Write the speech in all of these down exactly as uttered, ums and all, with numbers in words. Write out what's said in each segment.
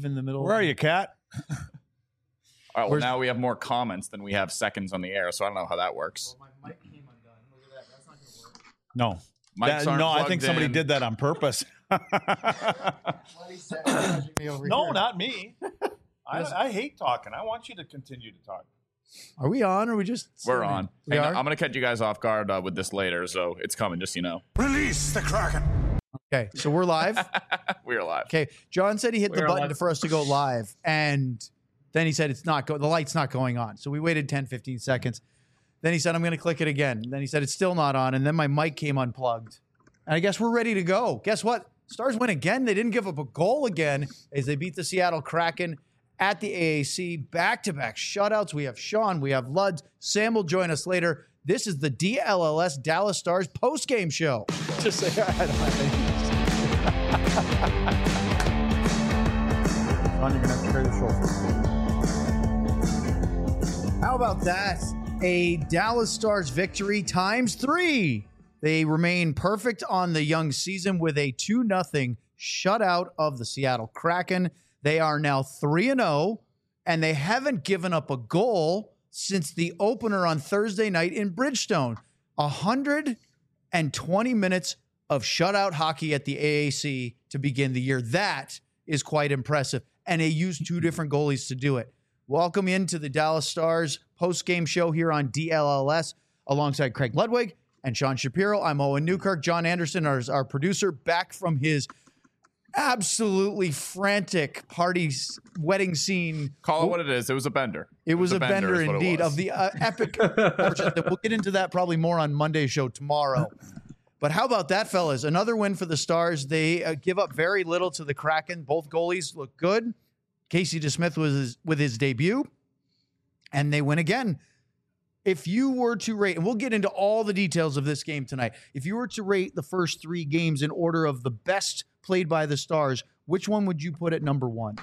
in the middle. Where are you, Kat? All right, well, now we have more comments than we have seconds on the air, so I don't know how that works. Well, my mic came undone. Look at that. That's not going to work. No. Mics That- aren't no, I plugged think somebody in. did that on purpose. Me over no, here. not me. I, I hate talking. I want you to continue to talk. Are we on or are we just? We're on. We Hang are? on, I'm going to catch you guys off guard uh, with this later, so it's coming, just so you know. Release the Kraken. Okay, so we're live. We're live. Okay, John said he hit the We're button live. for us to go live, and then he said it's not go. The light's not going on. So we waited ten, fifteen seconds. Then he said I'm going to click it again. Then he said it's still not on, and then my mic came unplugged. And I guess we're ready to go. Guess what? Stars win again. They didn't give up a goal again as they beat the Seattle Kraken at the A A C. Back-to-back shutouts. We have Sean. We have Luds. Sam will join us later. This is the D L L S Dallas Stars post-game show. Just say I don't have any. Sean, you're going to have to carry the show. How about that? A Dallas Stars victory times three. They remain perfect on the young season with a two nothing shutout of the Seattle Kraken. They are now three and oh, and they haven't given up a goal since the opener on Thursday night in Bridgestone. one hundred twenty minutes of shutout hockey at the A A C to begin the year. That is quite impressive, and they used two different goalies to do it. Welcome into the Dallas Stars post-game show here on D L L S alongside Craig Ludwig and Sean Shapiro. I'm Owen Newkirk. John Anderson, our, our producer, back from his absolutely frantic party s- wedding scene. Call it what it is. It was a bender. It was a bender, is what it indeed was. of the uh, epic. We'll get into that probably more on Monday's show tomorrow. But how about that, fellas? Another win for the Stars. They uh, give up very little to the Kraken. Both goalies look good. Casey DeSmith was his, with his debut, and they win again. If you were to rate, and we'll get into all the details of this game tonight, if you were to rate the first three games in order of the best played by the Stars, which one would you put at number one?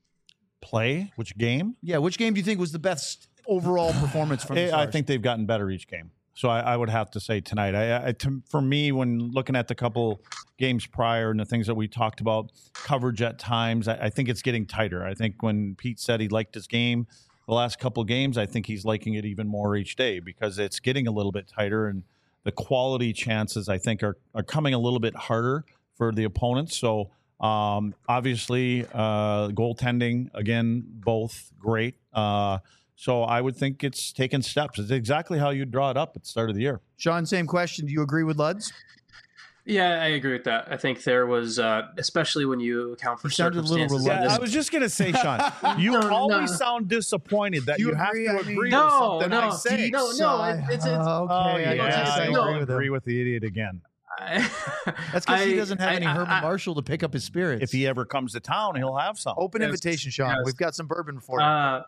Play? Which game? Yeah, which game do you think was the best overall performance from the I Stars? I think they've gotten better each game. So I, I would have to say tonight. I, I, to, for me, when looking at the couple games prior and the things that we talked about, coverage at times, I, I think it's getting tighter. I think when Pete said he liked his game the last couple games, I think he's liking it even more each day because it's getting a little bit tighter and the quality chances, I think, are, are coming a little bit harder for the opponents. So um, obviously, uh, goaltending, again, both great. Uh, so I would think it's taken steps. It's exactly how you draw it up at the start of the year. Sean, same question. Do you agree with Luds? Yeah, I agree with that. I think there was, uh, especially when you account for You sounded a little circumstances. reluctant. in Yeah, this- I was just going to say, Sean, you No, no. always sound disappointed that You you, have agree? to I agree mean- with No, something no, I say. no, no. it- It's, it's, Oh, okay. Oh, I yeah, don't yeah, think I no. agree with him. agree with the idiot again. I, That's because he I- doesn't have I- any I- Herman I- Marshall to pick up his spirits. If he ever comes to town, he'll have some. Open Yes. invitation, Sean. Yes. We've got some bourbon for you. Uh,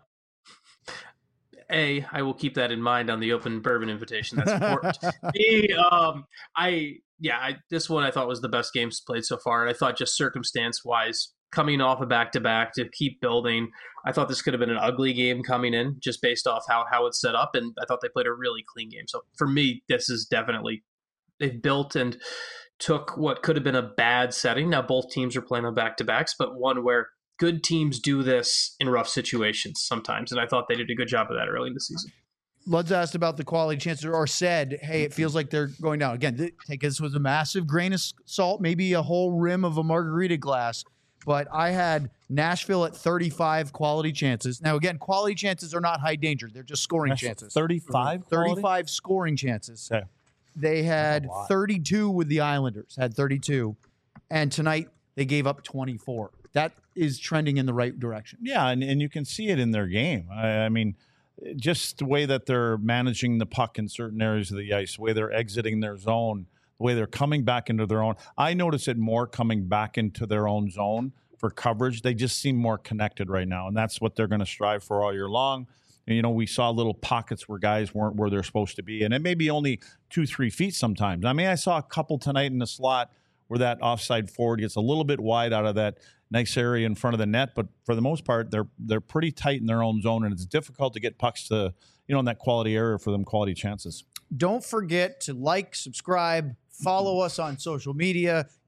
A, I will keep that in mind on the open bourbon invitation. That's important. B, um, I yeah, I, this one I thought was the best games played so far, and I thought just circumstance wise, coming off a back to back to keep building, I thought this could have been an ugly game coming in just based off how how it's set up, and I thought they played a really clean game. So for me, this is definitely they've built and took what could have been a bad setting. Now both teams are playing on back to backs, but one where good teams do this in rough situations sometimes, and I thought they did a good job of that early in the season. Luds asked about the quality chances or said, hey, it feels like they're going down. Again, th- take this with a massive grain of s- salt, maybe a whole rim of a margarita glass. But I had Nashville at thirty-five quality chances. Now, again, quality chances are not high danger. They're just scoring That's chances. thirty-five? thirty-five scoring chances. Okay. They had That's a lot. thirty-two with the Islanders, had thirty-two. And tonight they gave up twenty-four. That is trending in the right direction. Yeah, and, and you can see it in their game. I, I mean, just the way that they're managing the puck in certain areas of the ice, the way they're exiting their zone, the way they're coming back into their own. I notice it more coming back into their own zone for coverage. They just seem more connected right now, and that's what they're going to strive for all year long. And, you know, we saw little pockets where guys weren't where they're supposed to be, and it may be only two, three feet sometimes. I mean, I saw a couple tonight in the slot where that offside forward gets a little bit wide out of that nice area in front of the net, but for the most part, they're they're pretty tight in their own zone, and it's difficult to get pucks to, you know, in that quality area for them quality chances. Don't forget to like, subscribe, follow us on social media.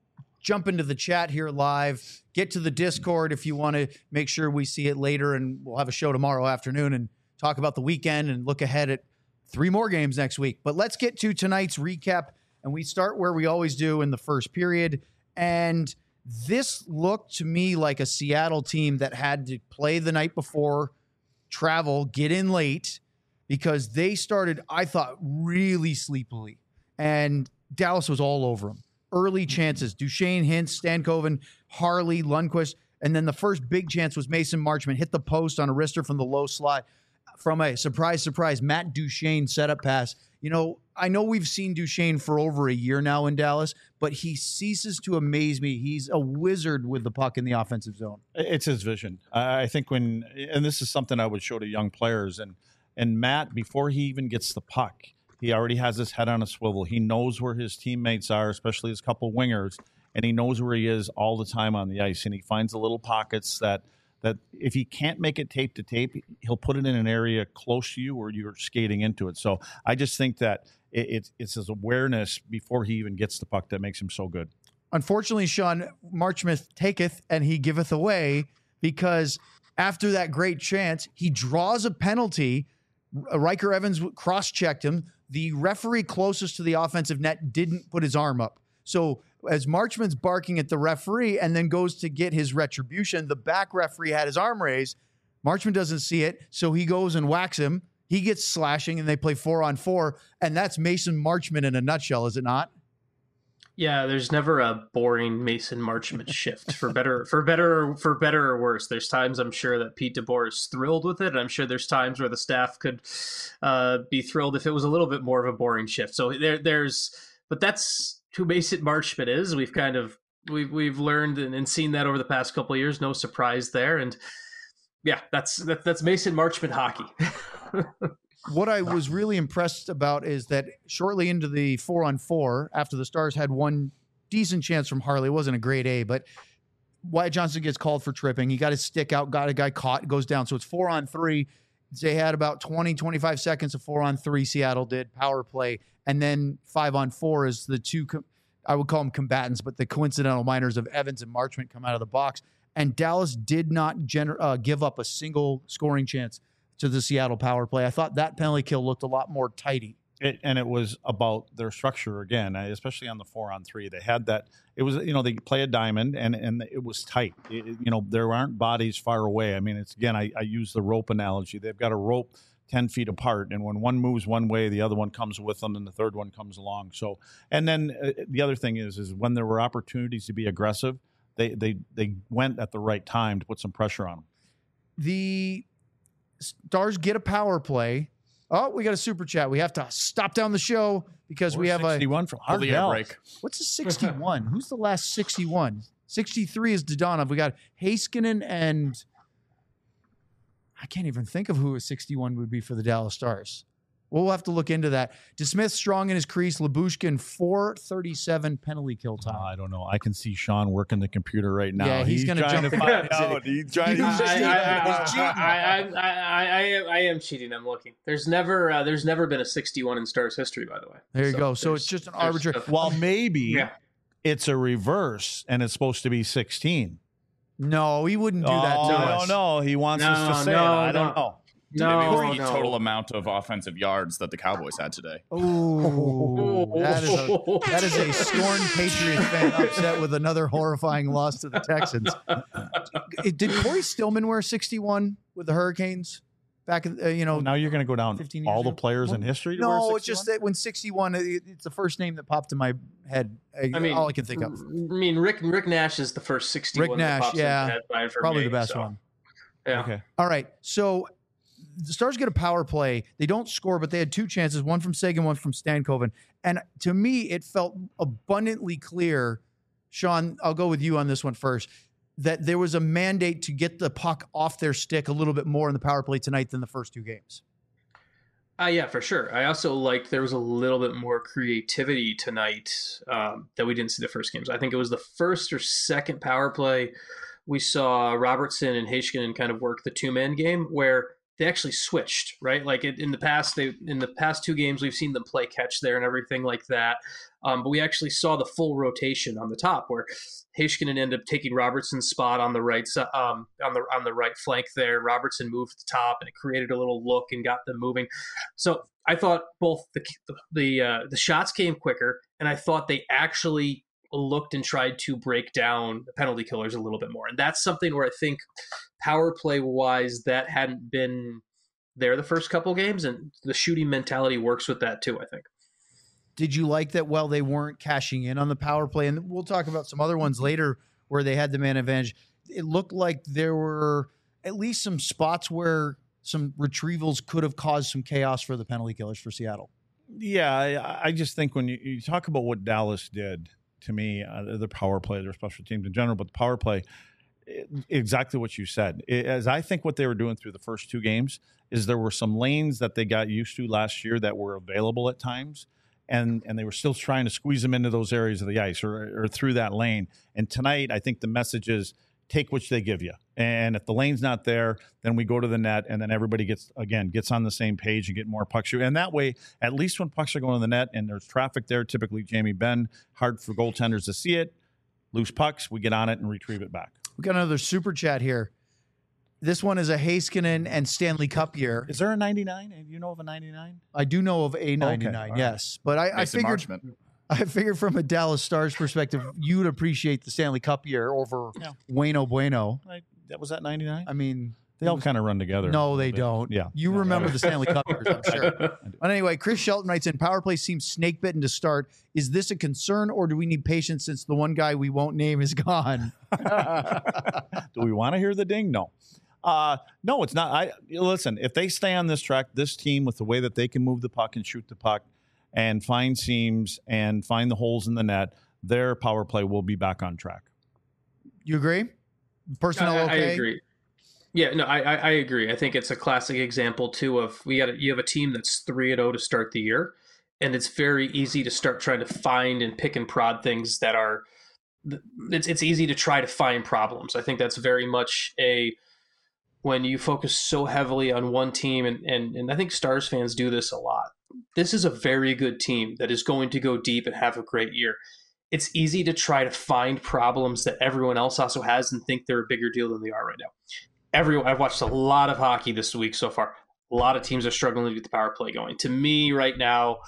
jump into the chat here live. Get to the Discord if you want to make sure we see it later, and we'll have a show tomorrow afternoon and talk about the weekend and look ahead at three more games next week. But let's get to tonight's recap, and we start where we always do in the first period. And this looked to me like a Seattle team that had to play the night before, travel, get in late, because they started, I thought, really sleepily. And Dallas was all over them. Early chances, Duchesne, Hintz, Stankoven, Harley, Lundqvist. And then the first big chance was Mason Marchment hit the post on a wrister from the low slot from a surprise, surprise, Matt Duchesne setup pass. You know, I know we've seen Duchesne for over a year now in Dallas, but he ceases to amaze me. He's a wizard with the puck in the offensive zone. It's his vision. I think when, and this is something I would show to young players, and and Matt, before he even gets the puck, he already has his head on a swivel. He knows where his teammates are, especially his couple wingers, and he knows where he is all the time on the ice. And he finds the little pockets that that if he can't make it tape to tape, he'll put it in an area close to you where you're skating into it. So I just think that it, it's it's his awareness before he even gets the puck that makes him so good. Unfortunately, Sean, Marchment taketh and he giveth away, because after that great chance, he draws a penalty. Riker Evans cross-checked him. The referee closest to the offensive net didn't put his arm up. So as Marchment's barking at the referee and then goes to get his retribution, the back referee had his arm raised. Marchment doesn't see it, so he goes and whacks him. He gets slashing, and they play four on four, and that's Mason Marchment in a nutshell, is it not? Yeah, there's never a boring Mason Marchment shift, for better, for better, for better or worse. There's times I'm sure that Pete DeBoer is thrilled with it, and I'm sure there's times where the staff could uh, be thrilled if it was a little bit more of a boring shift. So there, there's, but that's who Mason Marchment is. We've kind of we've we've learned and, and seen that over the past couple of years. No surprise there, and yeah, that's that, that's Mason Marchment hockey. What I was really impressed about is that shortly into the four on four, after the Stars had one decent chance from Harley, it wasn't a grade A, but Wyatt Johnston gets called for tripping. He got his stick out, got a guy caught, goes down. So it's four on three. They had about twenty, twenty-five seconds of four on three. Seattle did power play. And then five on four is the two, I would call them combatants, but the coincidental minors of Evans and Marchment come out of the box. And Dallas did not gener- uh, give up a single scoring chance to the Seattle power play. I thought that penalty kill looked a lot more tidy. It, and it was about their structure again, especially on the four on three. They had that. It was, you know, they play a diamond, and and it was tight. It, you know, there aren't bodies far away. I mean, it's again, I, I use the rope analogy. They've got a rope ten feet apart, and when one moves one way, the other one comes with them, and the third one comes along. So, and then uh, the other thing is, is when there were opportunities to be aggressive, they they they went at the right time to put some pressure on them. The Stars get a power play. Oh, we got a super chat. We have to stop down the show because Or we have a sixty-one from Pull the air Ardell. break. What's a sixty-one? Who's the last sixty-one? sixty-three is Dodonov. We got Heiskanen and I can't even think of who a sixty-one would be for the Dallas Stars. We'll have to look into that. DeSmith strong in his crease. Labushkin four thirty-seven penalty kill time. Uh, I don't know. I can see Sean working the computer right now. Yeah, he's gonna trying jump to in. find out. He's trying He's to. just- I, He's cheating. I, I, I, I, am, I am cheating. I'm looking. There's never, uh, there's never been a sixty-one in Stars history, by the way. There you So go. So there's- it's just an there's arbitrary. stuff- Well, maybe Yeah. it's a reverse, and it's supposed to be sixteen. No, he wouldn't do that oh, to I us. don't know. He wants No, us to say no, it. I don't no. know. No, Maybe it was the no. total amount of offensive yards that the Cowboys had today. Ooh, that is a that is a scorned Patriot fan upset with another horrifying loss to the Texans. Did Corey Stillman wear sixty-one with the Hurricanes back in uh, you know? Well, now you're going to go down fifteen all years the ago? players in Well, history. To no, wear it's just sixty-one? that when sixty-one, it, it's the first name that popped in my head. I, I mean, all I can think of. I mean, Rick Rick Nash is the first sixty-one. Rick that Nash, pops in yeah, my head by- for Probably me, the best so, one. Yeah. Okay. All right, so the Stars get a power play. They don't score, but they had two chances, one from Sagan, one from Stankoven. And to me, it felt abundantly clear, Sean, I'll go with you on this one first, that there was a mandate to get the puck off their stick a little bit more in the power play tonight than the first two games. Uh, yeah, for sure. I also liked there was a little bit more creativity tonight um, that we didn't see the first games. I think it was the first or second power play we saw Robertson and Heiskanen kind of work the two-man game where they actually switched, right? Like it, in the past, they in the past two games, we've seen them play catch there and everything like that. Um, but we actually saw the full rotation on the top, where Heiskanen ended up taking Robertson's spot on the right um, on the on the right flank there. Robertson moved to the top, and it created a little look and got them moving. So I thought both the the uh, the shots came quicker, and I thought they actually looked and tried to break down the penalty killers a little bit more. And that's something where I think power play wise, that hadn't been there the first couple games, and the shooting mentality works with that too, I think. Did you like that while they weren't cashing in on the power play? And we'll talk about some other ones later where they had the man advantage. It looked like there were at least some spots where some retrievals could have caused some chaos for the penalty killers for Seattle. Yeah, I, I just think when you, you talk about what Dallas did, to me, uh, the power play, their special teams in general, but the power play, it, exactly what you said. It, as I think what they were doing through the first two games is there were some lanes that they got used to last year that were available at times, and and they were still trying to squeeze them into those areas of the ice or, or through that lane. And tonight, I think the message is take which they give you. And if the lane's not there, then we go to the net, and then everybody gets, again, gets on the same page and get more puck shoot. And that way, at least when pucks are going to the net and there's traffic there, typically Jamie Benn, hard for goaltenders to see it, loose pucks, we get on it and retrieve it back. We got another super chat here. This one is a Heiskanen and Stanley Cup year. Is there a ninety-nine? Do you know of a ninety-nine? I do know of a ninety-nine, okay, yes. Right. But I, I figured... Marchment. I figured from a Dallas Stars perspective, you'd appreciate the Stanley Cup year over yeah. Bueno Bueno. I, that was that ninety-nine? I mean, they all kind of run together. No, they don't. Yeah. You yeah. remember the Stanley Cup years, I'm sure. But anyway, Chris Shelton writes in, power play seems snake bitten to start. Is this a concern, or do we need patience since the one guy we won't name is gone? Do we want to hear the ding? No. Uh, no, it's not. I listen, if they stay on this track, this team, with the way that they can move the puck and shoot the puck and find seams and find the holes in the net, their power play will be back on track. You agree? Personnel I, okay? I agree. Yeah, no, I, I agree. I think it's a classic example too of we got you have a team that's three and zero to start the year, and it's very easy to start trying to find and pick and prod things that are. It's it's easy to try to find problems. I think that's very much a when you focus so heavily on one team, and and and I think Stars fans do this a lot. This is a very good team that is going to go deep and have a great year. It's easy to try to find problems that everyone else also has and think they're a bigger deal than they are right now. Everyone, I've watched a lot of hockey this week so far. A lot of teams are struggling to get the power play going. To me, right now,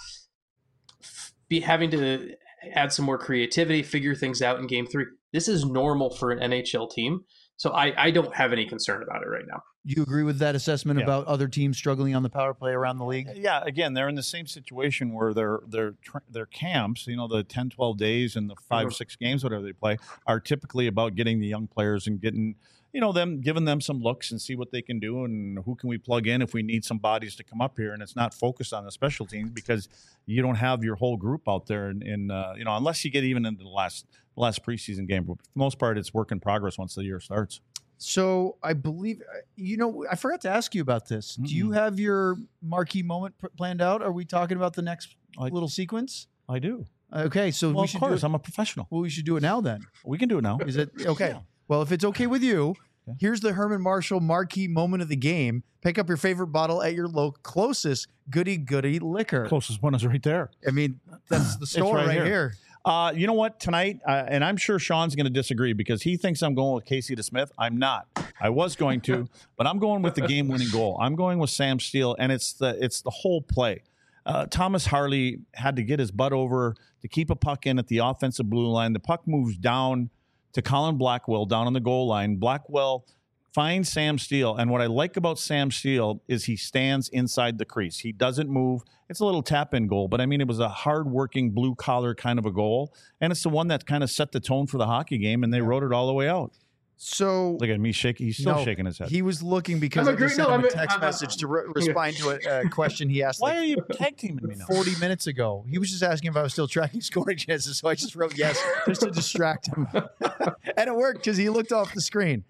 be having to add some more creativity, figure things out in game three. This is normal for an N H L team. So I, I don't have any concern about it right now. Do you agree with that assessment yeah. about other teams struggling on the power play around the league? Yeah, again, they're in the same situation where their their their camps, you know, the ten, twelve days and the five, six games, whatever they play, are typically about getting the young players and getting, you know, them, giving them some looks and see what they can do and who can we plug in if we need some bodies to come up here. And it's not focused on the special teams because you don't have your whole group out there in, in uh, you know, unless you get even into the last last preseason game. But for the most part, it's work in progress once the year starts. So I believe, you know, I forgot to ask you about this. Mm-hmm. Do you have your marquee moment p- planned out? Are we talking about the next I, little sequence? I do. Okay, so well, we should of course, do it. I'm a professional. Well, we should do it now then. We can do it now. Is it okay? Yeah. Well, if it's okay with you, yeah. Here's the Herman Marshall marquee moment of the game. Pick up your favorite bottle at your local closest goody goody liquor. Closest one is right there. I mean, that's the store right, right here. here. Uh, you know what? Tonight, uh, and I'm sure Sean's going to disagree because he thinks I'm going with Casey DeSmith. I'm not. I was going to, but I'm going with the game-winning goal. I'm going with Sam Steele, and it's the it's the whole play. Uh, Thomas Harley had to get his butt over to keep a puck in at the offensive blue line. The puck moves down to Colin Blackwell down on the goal line. Blackwell finds Sam Steele, and what I like about Sam Steele is he stands inside the crease. He doesn't move. It's a little tap-in goal, but I mean, it was a hard-working, blue-collar kind of a goal, and it's the one that kind of set the tone for the hockey game, and they wrote it all the way out. So look at me shaking. He's still no, shaking his head. He was looking because I just sent no, him a text I'm, message I'm, to re- respond to a uh, question he asked. Why like are you tag teaming me now? forty minutes ago. He was just asking if I was still tracking scoring chances, so I just wrote yes just to distract him. And it worked because he looked off the screen.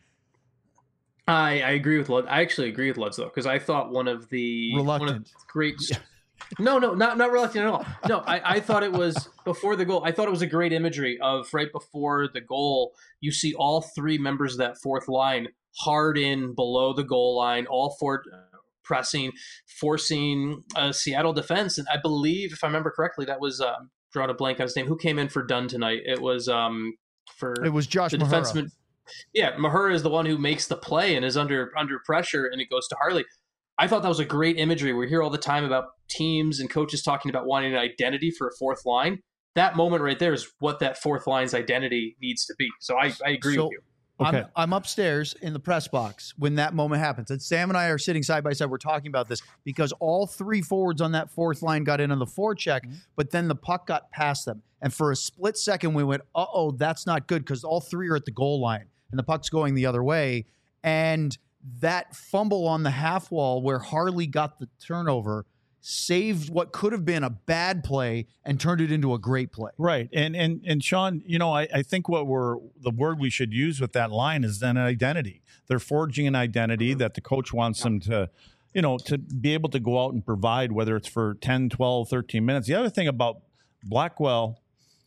I, I agree with Lutz. I actually agree with Lutz, though, because I thought one of the reluctant, one of the great. No, no, not not reluctant at all. No, I, I thought it was before the goal. I thought it was a great imagery of right before the goal. You see all three members of that fourth line hard in below the goal line. All four pressing, forcing a Seattle defense. And I believe, if I remember correctly, that was um, drawing a blank on his name. Who came in for Dunn tonight? It was um, for it was Josh the Mahura. defenseman. Yeah, Mahura is the one who makes the play and is under under pressure, and it goes to Harley. I thought that was a great imagery. We hear all the time about teams and coaches talking about wanting an identity for a fourth line. That moment right there is what that fourth line's identity needs to be. So I, I agree so, with you. Okay. I'm, I'm upstairs in the press box when that moment happens. And Sam and I are sitting side by side. We're talking about this because all three forwards on that fourth line got in on the forecheck, mm-hmm. but then the puck got past them. And for a split second, we went, uh-oh, that's not good because all three are at the goal line and the puck's going the other way. And that fumble on the half wall where Harley got the turnover saved what could have been a bad play and turned it into a great play. Right. And and and Sean, you know, I, I think what we're the word we should use with that line is then identity. They're forging an identity that the coach wants them to, you know, to be able to go out and provide, whether it's for ten, twelve, thirteen minutes. The other thing about Blackwell,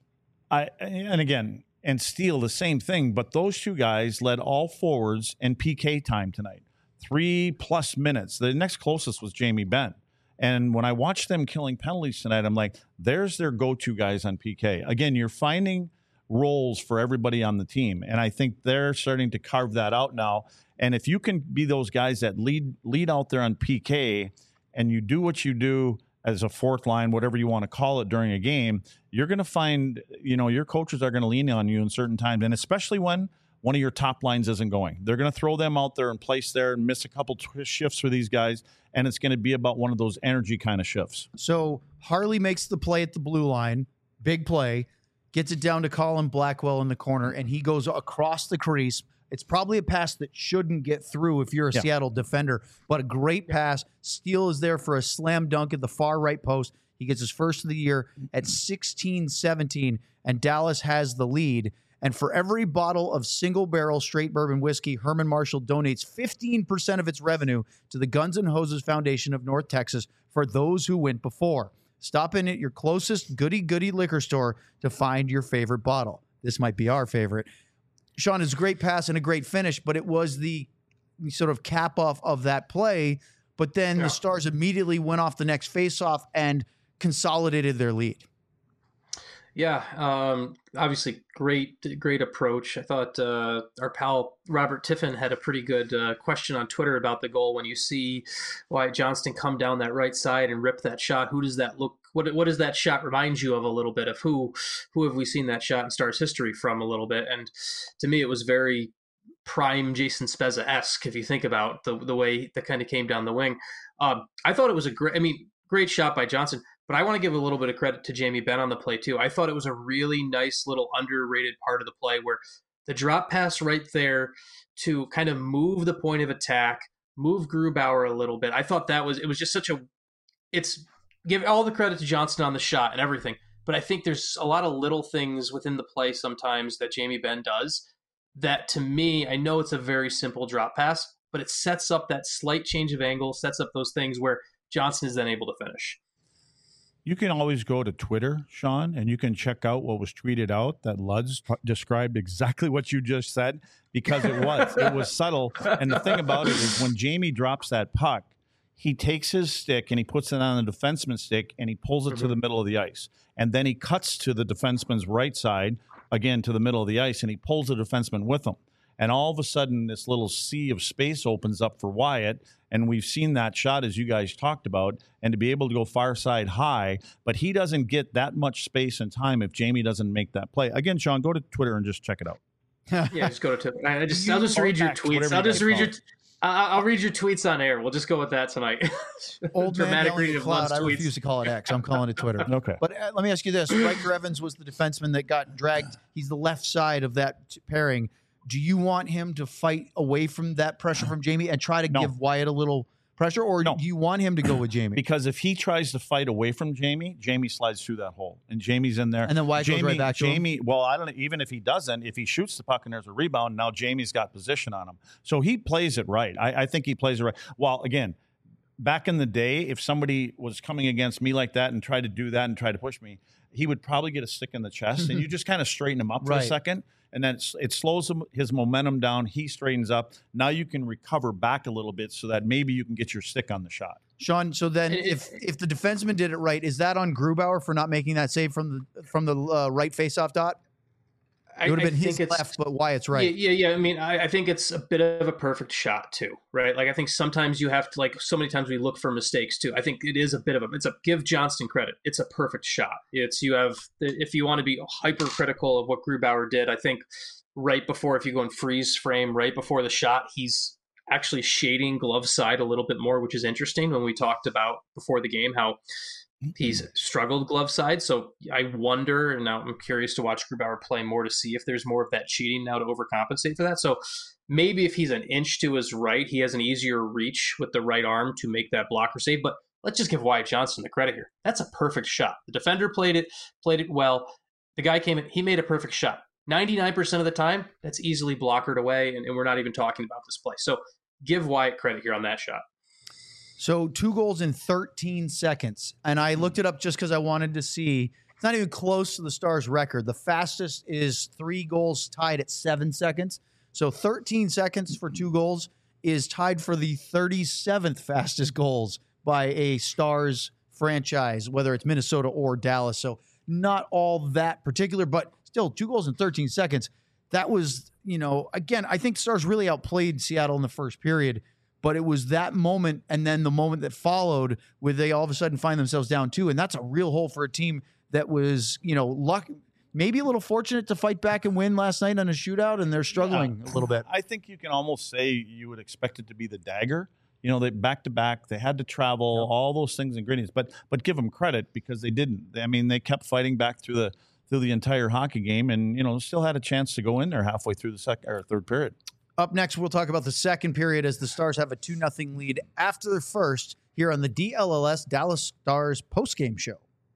I and again, and Steele, the same thing, but those two guys led all forwards in P K time tonight. Three plus minutes. The next closest was Jamie Benn. And when I watched them killing penalties tonight, I'm like, there's their go-to guys on P K. Again, you're finding roles for everybody on the team. And I think they're starting to carve that out now. And if you can be those guys that lead lead out there on P K and you do what you do as a fourth line, whatever you want to call it during a game, you're going to find, you know, your coaches are going to lean on you in certain times. And especially when one of your top lines isn't going. They're going to throw them out there and place there and miss a couple t- shifts for these guys, and it's going to be about one of those energy kind of shifts. So Harley makes the play at the blue line, big play, gets it down to Colin Blackwell in the corner, and he goes across the crease. It's probably a pass that shouldn't get through if you're a yeah. Seattle defender, but a great pass. Steele is there for a slam dunk at the far right post. He gets his first of the year at sixteen seventeen, and Dallas has the lead. And for every bottle of single-barrel straight bourbon whiskey, Herman Marshall donates fifteen percent of its revenue to the Guns N' Hoses Foundation of North Texas for those who went before. Stop in at your closest goody-goody liquor store to find your favorite bottle. This might be our favorite. Sean, it's a great pass and a great finish, but it was the sort of cap-off of that play. But then yeah. the Stars immediately went off the next face-off and consolidated their lead. Yeah, um, obviously great, great approach. I thought uh, our pal Robert Tiffin had a pretty good uh, question on Twitter about the goal. When you see Wyatt Johnston come down that right side and rip that shot, who does that look? What what does that shot remind you of a little bit of? Who who have we seen that shot in Stars history from a little bit? And to me, it was very prime Jason Spezza-esque if you think about the the way that kind of came down the wing. Um, I thought it was a great. I mean, great shot by Johnston. But I want to give a little bit of credit to Jamie Benn on the play, too. I thought it was a really nice little underrated part of the play where the drop pass right there to kind of move the point of attack, move Grubauer a little bit. I thought that was – it was just such a – it's – give all the credit to Johnston on the shot and everything. But I think there's a lot of little things within the play sometimes that Jamie Benn does that, to me, I know it's a very simple drop pass, but it sets up that slight change of angle, sets up those things where Johnston is then able to finish. You can always go to Twitter, Sean, and you can check out what was tweeted out that Luds t- described exactly what you just said, because it was. It was subtle. And the thing about it is when Jamie drops that puck, he takes his stick and he puts it on the defenseman's stick and he pulls it mm-hmm. to the middle of the ice. And then he cuts to the defenseman's right side, again to the middle of the ice, and he pulls the defenseman with him. And all of a sudden, this little sea of space opens up for Wyatt, and we've seen that shot, as you guys talked about, and to be able to go far side high, but he doesn't get that much space and time if Jamie doesn't make that play. Again, Sean, go to Twitter and just check it out. Yeah, just go to Twitter. I just, I'll just read your tweets. I'll just read your I'll, I'll read your tweets on air. We'll just go with that tonight. Old dramatic reading of Lud's tweets. I refuse to call it X. I'm calling it Twitter. Okay. But uh, let me ask you this. Riker Evans was the defenseman that got dragged. He's the left side of that t- pairing. Do you want him to fight away from that pressure from Jamie and try to no. give Wyatt a little pressure, or no. do you want him to go with Jamie? Because if he tries to fight away from Jamie, Jamie slides through that hole, and Jamie's in there. And then Wyatt Jamie, goes right back to Jamie, him? Well, I don't know. Even if he doesn't, if he shoots the puck and there's a rebound, now Jamie's got position on him. So he plays it right. I, I think he plays it right. Well, again, back in the day, if somebody was coming against me like that and tried to do that and try to push me, he would probably get a stick in the chest, and you just kind of straighten him up for right. a second. and then it's, it slows him, his momentum down. He straightens up. Now you can recover back a little bit so that maybe you can get your stick on the shot. Sean, so then if if the defenseman did it right, is that on Grubauer for not making that save from the from the uh, right faceoff dot? It would have been his left, but Wyatt's right. Yeah, yeah. yeah. I mean, I, I think it's a bit of a perfect shot too, right? Like I think sometimes you have to, like so many times we look for mistakes too. I think it is a bit of a, it's a, give Johnston credit. It's a perfect shot. It's, you have, if you want to be hypercritical of what Grubauer did, I think right before, if you go in freeze frame, right before the shot, he's actually shading glove side a little bit more, which is interesting when we talked about before the game, how he's struggled glove side. So I wonder, and now I'm curious to watch Grubauer play more to see if there's more of that cheating now to overcompensate for that. So maybe if he's an inch to his right, he has an easier reach with the right arm to make that blocker save. But let's just give Wyatt Johnston the credit here. That's a perfect shot. The defender played it, played it well. The guy came in, he made a perfect shot. ninety-nine percent of the time, that's easily blockered away, and, and we're not even talking about this play. So give Wyatt credit here on that shot. So two goals in thirteen seconds. And I looked it up just because I wanted to see. It's not even close to the Stars record. The fastest is three goals tied at seven seconds. So thirteen seconds for two goals is tied for the thirty-seventh fastest goals by a Stars franchise, whether it's Minnesota or Dallas. So not all that particular, but still two goals in thirteen seconds. That was, you know, again, I think Stars really outplayed Seattle in the first period. But it was that moment and then the moment that followed where they all of a sudden find themselves down two. And that's a real hole for a team that was, you know, luck, maybe a little fortunate to fight back and win last night on a shootout, and they're struggling yeah. a little bit. I think you can almost say you would expect it to be the dagger. You know, they back to back, they had to travel, yeah. all those things, ingredients. But but give them credit because they didn't. I mean, they kept fighting back through the through the entire hockey game, and you know, still had a chance to go in there halfway through the second or third period. Up next, we'll talk about the second period as the Stars have a two nothing lead after their first here on the D L L S Dallas Stars postgame show.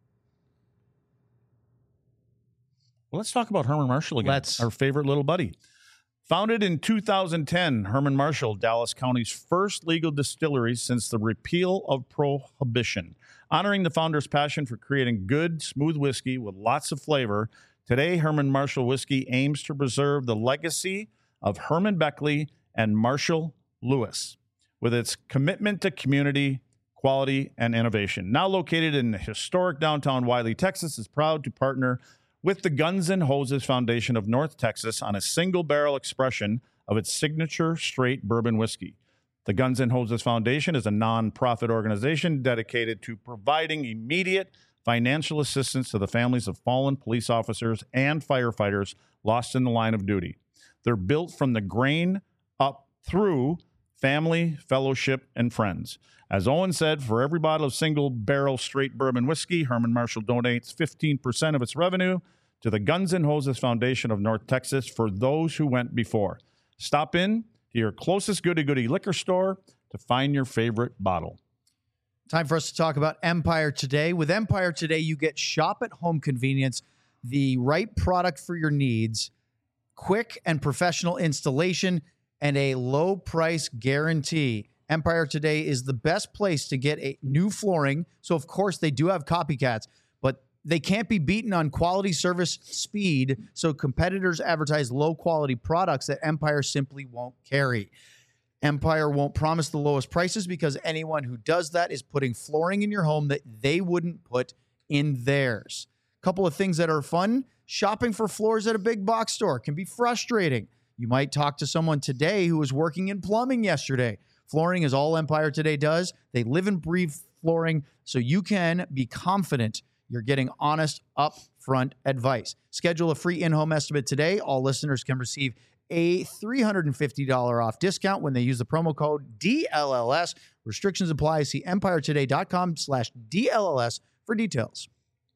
Well, let's talk about Herman Marshall again, let's. our favorite little buddy. Founded in two thousand ten, Herman Marshall, Dallas County's first legal distillery since the repeal of Prohibition. Honoring the founder's passion for creating good, smooth whiskey with lots of flavor, today Herman Marshall Whiskey aims to preserve the legacy of Herman Beckley and Marshall Lewis, with its commitment to community, quality, and innovation. Now located in the historic downtown Wiley, Texas, is proud to partner with the Guns N' Hoses Foundation of North Texas on a single-barrel expression of its signature straight bourbon whiskey. The Guns N' Hoses Foundation is a nonprofit organization dedicated to providing immediate financial assistance to the families of fallen police officers and firefighters lost in the line of duty. They're built from the grain up through family, fellowship, and friends. As Owen said, for every bottle of single-barrel straight bourbon whiskey, Herman Marshall donates fifteen percent of its revenue to the Guns N' Hoses Foundation of North Texas for those who went before. Stop in to your closest goody-goody liquor store to find your favorite bottle. Time for us to talk about Empire Today. With Empire Today, you get shop-at-home convenience, the right product for your needs, quick and professional installation, and a low price guarantee. Empire Today is the best place to get a new flooring. So, of course, they do have copycats, but they can't be beaten on quality, service, speed. So competitors advertise low-quality products that Empire simply won't carry. Empire won't promise the lowest prices because anyone who does that is putting flooring in your home that they wouldn't put in theirs. A couple of things that are fun. Shopping for floors at a big box store can be frustrating. You might talk to someone today who was working in plumbing yesterday. Flooring is all Empire Today does. They live and breathe flooring, so you can be confident you're getting honest, upfront advice. Schedule a free in-home estimate today. All listeners can receive a three hundred fifty dollars off discount when they use the promo code D L L S. Restrictions apply. See empiretoday.com slash DLLS for details.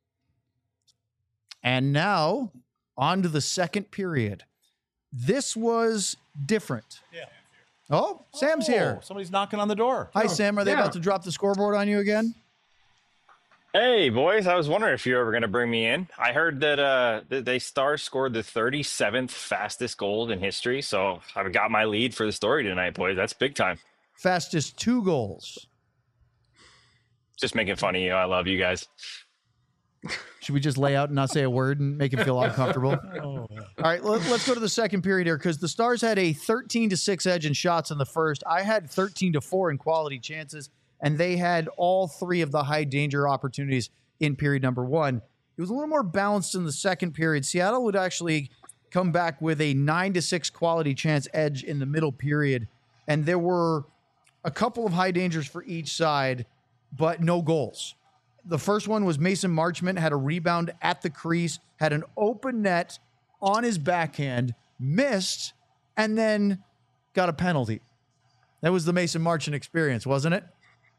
And now, on to the second period. This was different. Yeah. Oh, Sam's oh, here. Somebody's knocking on the door. Hi, Sam. Are they Yeah. about to drop the scoreboard on you again? Hey, boys. I was wondering if you were ever going to bring me in. I heard that uh, that they Stars scored the thirty-seventh fastest goal in history, so I've got my lead for the story tonight, boys. That's big time. Fastest two goals. Just making fun of you. I love you guys. Should we just lay out and not say a word and make him feel uncomfortable? Oh. All right, let, let's go to the second period here because the Stars had a thirteen to six edge in shots in the first. I had thirteen to four in quality chances, and they had all three of the high danger opportunities in period number one. It was a little more balanced in the second period. Seattle would actually come back with a nine to six quality chance edge in the middle period, and there were a couple of high dangers for each side, but no goals. The first one was Mason Marchment had a rebound at the crease, had an open net on his backhand, missed, and then got a penalty. That was the Mason Marchment experience, wasn't it?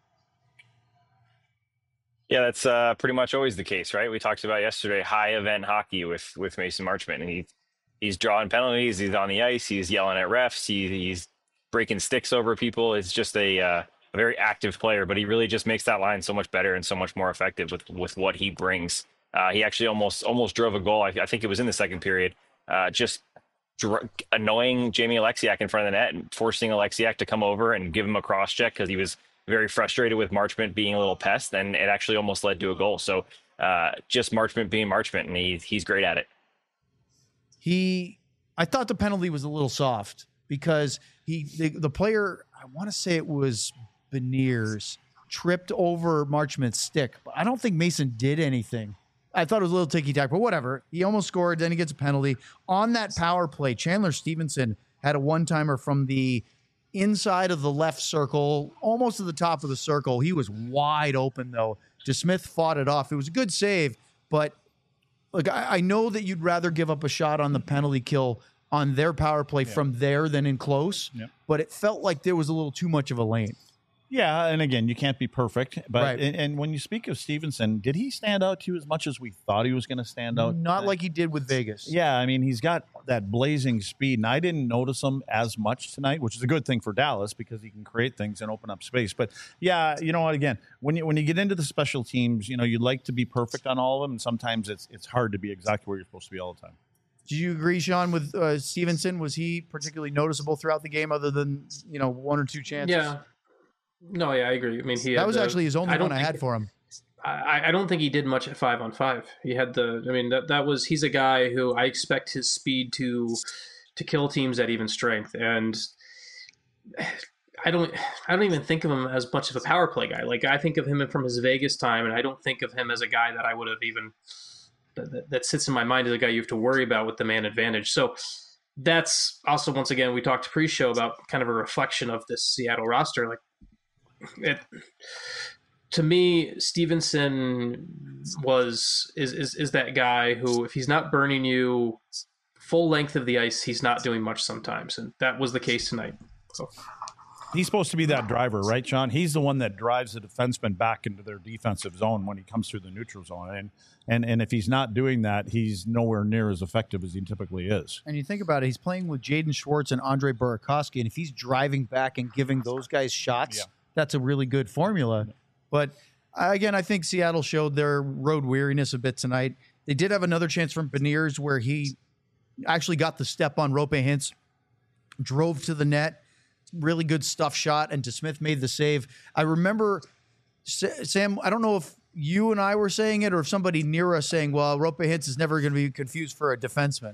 Yeah, that's uh, pretty much always the case, right? We talked about yesterday high event hockey with with Mason Marchment, and he he's drawing penalties, he's on the ice, he's yelling at refs, he, he's breaking sticks over people. It's just a uh, a very active player, but he really just makes that line so much better and so much more effective with, with what he brings. Uh, he actually almost almost drove a goal. I, I think it was in the second period, uh, just dr- annoying Jamie Alexiak in front of the net and forcing Alexiak to come over and give him a cross check because he was very frustrated with Marchment being a little pest, and it actually almost led to a goal. So uh, just Marchment being Marchment, and he, he's great at it. He, I thought the penalty was a little soft because he, the, the player, I want to say it was Beniers, tripped over Marchment's stick, but I don't think Mason did anything. I thought it was a little ticky-tack, but whatever. He almost scored, then he gets a penalty. On that power play, Chandler Stevenson had a one-timer from the inside of the left circle, almost to the top of the circle. He was wide open, though. DeSmith fought it off. It was a good save, but look, I, I know that you'd rather give up a shot on the penalty kill on their power play yeah. from there than in close, yeah. but it felt like there was a little too much of a lane. Yeah, and again, you can't be perfect. But right. and, and when you speak of Stevenson, did he stand out to you as much as we thought he was going to stand out? Not like he did with Vegas. Yeah, I mean, he's got that blazing speed, and I didn't notice him as much tonight, which is a good thing for Dallas because he can create things and open up space. But yeah, you know what? Again, when you when you get into the special teams, you know, you'd like to be perfect on all of them, and sometimes it's it's hard to be exactly where you're supposed to be all the time. Do you agree, Sean, with uh, Stevenson? Was he particularly noticeable throughout the game, other than you know one or two chances? Yeah. No, yeah, I agree. I mean, he that had was the, actually his only I one I had for him. I, I don't think he did much at five on five. He had the. I mean, that that was he's a guy who I expect his speed to to kill teams at even strength, and I don't. I don't even think of him as much of a power play guy. Like I think of him from his Vegas time, and I don't think of him as a guy that I would have even that, that sits in my mind as a guy you have to worry about with the man advantage. So. That's also, once again, we talked pre-show about kind of a reflection of this Seattle roster. Like, it, to me, Stevenson was is, is is that guy who, if he's not burning you full length of the ice, he's not doing much sometimes, and that was the case tonight. So. He's supposed to be that driver, right, Sean? He's the one that drives the defenseman back into their defensive zone when he comes through the neutral zone. And and and if he's not doing that, he's nowhere near as effective as he typically is. And you think about it, he's playing with Jaden Schwartz and Andre Burakovsky, and if he's driving back and giving those guys shots, yeah. that's a really good formula. But again, I think Seattle showed their road weariness a bit tonight. They did have another chance from Beniers where he actually got the step on Rope Hintz, drove to the net. Really good stuff shot, and DeSmith made the save. I remember, Sam, I don't know if you and I were saying it or if somebody near us saying, well, Rope Hintz is never going to be confused for a defenseman.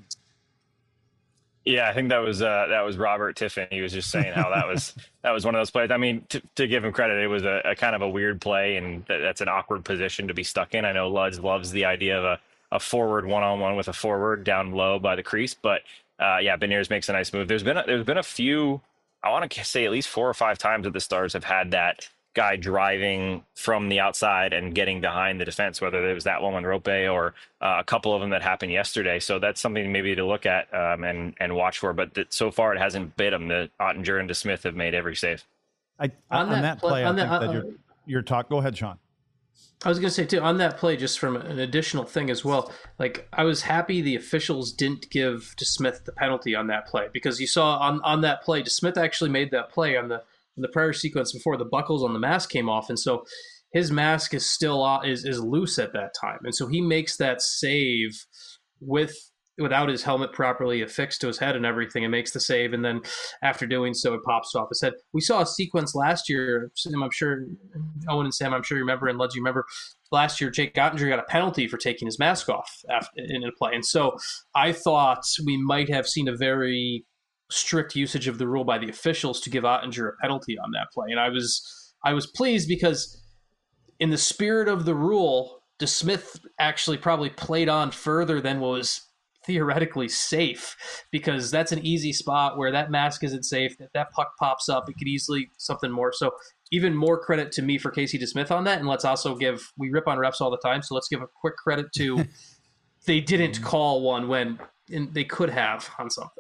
Yeah, I think that was uh, that was Robert Tiffin. He was just saying how that was that was one of those plays. I mean, to, to give him credit, it was a, a kind of a weird play, and that, that's an awkward position to be stuck in. I know Luds loves the idea of a, a forward one-on-one with a forward down low by the crease, but uh, yeah, Beniers makes a nice move. There's been a, there's been a few, I want to say at least four or five times that the Stars have had that guy driving from the outside and getting behind the defense, whether it was that one on Rope or uh, a couple of them that happened yesterday. So that's something maybe to look at um, and and watch for. But that, so far it hasn't bit them. The Ottinger and DeSmith have made every save. I, on, on that, that play, on I think that, uh, that you're, you're talk. Go ahead, Sean. I was going to say, too, on that play, just from an additional thing as well, like I was happy the officials didn't give DeSmith the penalty on that play, because you saw on, on that play, DeSmith actually made that play on the in the prior sequence before the buckles on the mask came off. And so his mask is still is, is loose at that time. And so he makes that save with without his helmet properly affixed to his head and everything, and makes the save. And then after doing so, it pops off his head. We saw a sequence last year, Sam, I'm sure, Owen and Sam, I'm sure you remember, and Luds, you remember, last year Jake Ottinger got a penalty for taking his mask off after, in a play. And so I thought we might have seen a very strict usage of the rule by the officials to give Ottinger a penalty on that play. And I was I was pleased because in the spirit of the rule, DeSmith actually probably played on further than was theoretically safe, because that's an easy spot where that mask isn't safe. If that puck pops up, it could easily something more. So even more credit to me for Casey DeSmith on that. And let's also give, we rip on refs all the time, so let's give a quick credit to they didn't call one when in, they could have on something.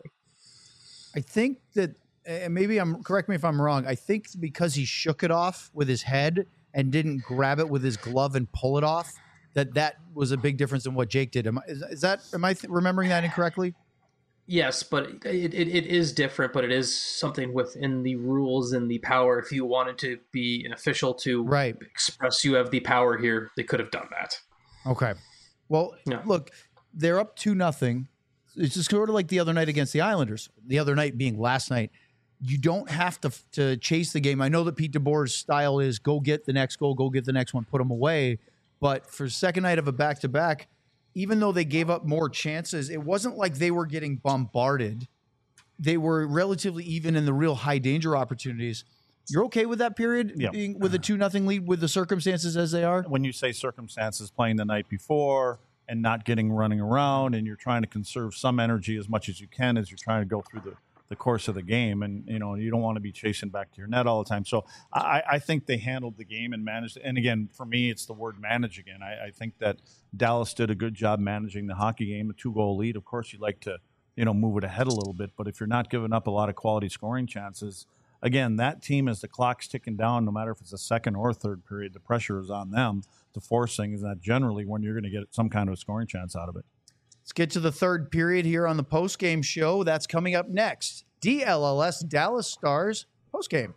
I think that, and maybe I'm, correct me if I'm wrong, I think because he shook it off with his head and didn't grab it with his glove and pull it off, that that was a big difference in what Jake did. Am I, is, is that, am I th- remembering that incorrectly? Yes, but it, it it is different, but it is something within the rules and the power. If you wanted to be an official to right. express you have the power here, they could have done that. Okay. Well, yeah. Look, they're up two nothing. It's just sort of like the other night against the Islanders. The other night being last night. You don't have to to chase the game. I know that Pete DeBoer's style is go get the next goal, go get the next one, put them away. But for second night of a back-to-back, even though they gave up more chances, it wasn't like they were getting bombarded. They were relatively even in the real high-danger opportunities. You're okay with that period, yeah. being with a two nothing lead with the circumstances as they are? When you say circumstances, playing the night before and not getting running around, and you're trying to conserve some energy as much as you can as you're trying to go through the the course of the game, and you know you don't want to be chasing back to your net all the time. So I, I think they handled the game and managed. And again, for me, it's the word manage again. I, I think that Dallas did a good job managing the hockey game. A two-goal lead, of course, you'd like to you know move it ahead a little bit, but if you're not giving up a lot of quality scoring chances, again, that team, as the clock's ticking down, no matter if it's a second or third period, the pressure is on them to force things. That generally when you're going to get some kind of a scoring chance out of it. Let's get to the third period here on the postgame show. That's coming up next. D L L S Dallas Stars postgame.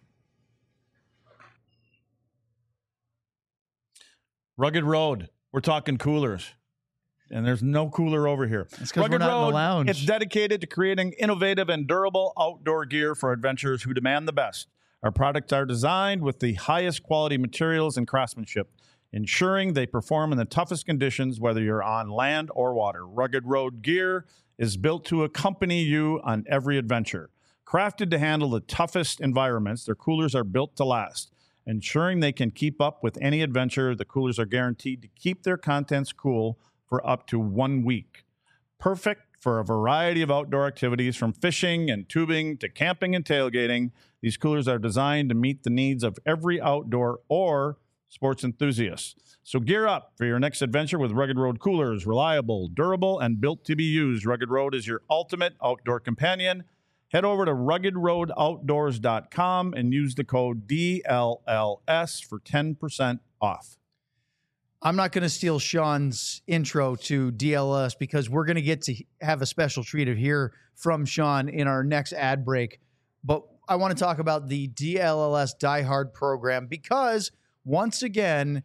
Rugged Road. We're talking coolers. And there's no cooler over here. It's because we're not Road, in the lounge. It's dedicated to creating innovative and durable outdoor gear for adventurers who demand the best. Our products are designed with the highest quality materials and craftsmanship, ensuring they perform in the toughest conditions, whether you're on land or water. Rugged Road gear is built to accompany you on every adventure. Crafted to handle the toughest environments, their coolers are built to last. Ensuring they can keep up with any adventure, the coolers are guaranteed to keep their contents cool for up to one week. Perfect for a variety of outdoor activities, from fishing and tubing to camping and tailgating. These coolers are designed to meet the needs of every outdoor or sports enthusiast. So gear up for your next adventure with Rugged Road coolers. Reliable, durable, and built to be used. Rugged Road is your ultimate outdoor companion. Head over to rugged road outdoors dot com and use the code D L L S for ten percent off. I'm not going to steal Sean's intro to D L L S because we're going to get to have a special treat of here from Sean in our next ad break. But I want to talk about the D L L S Die Hard program because once again,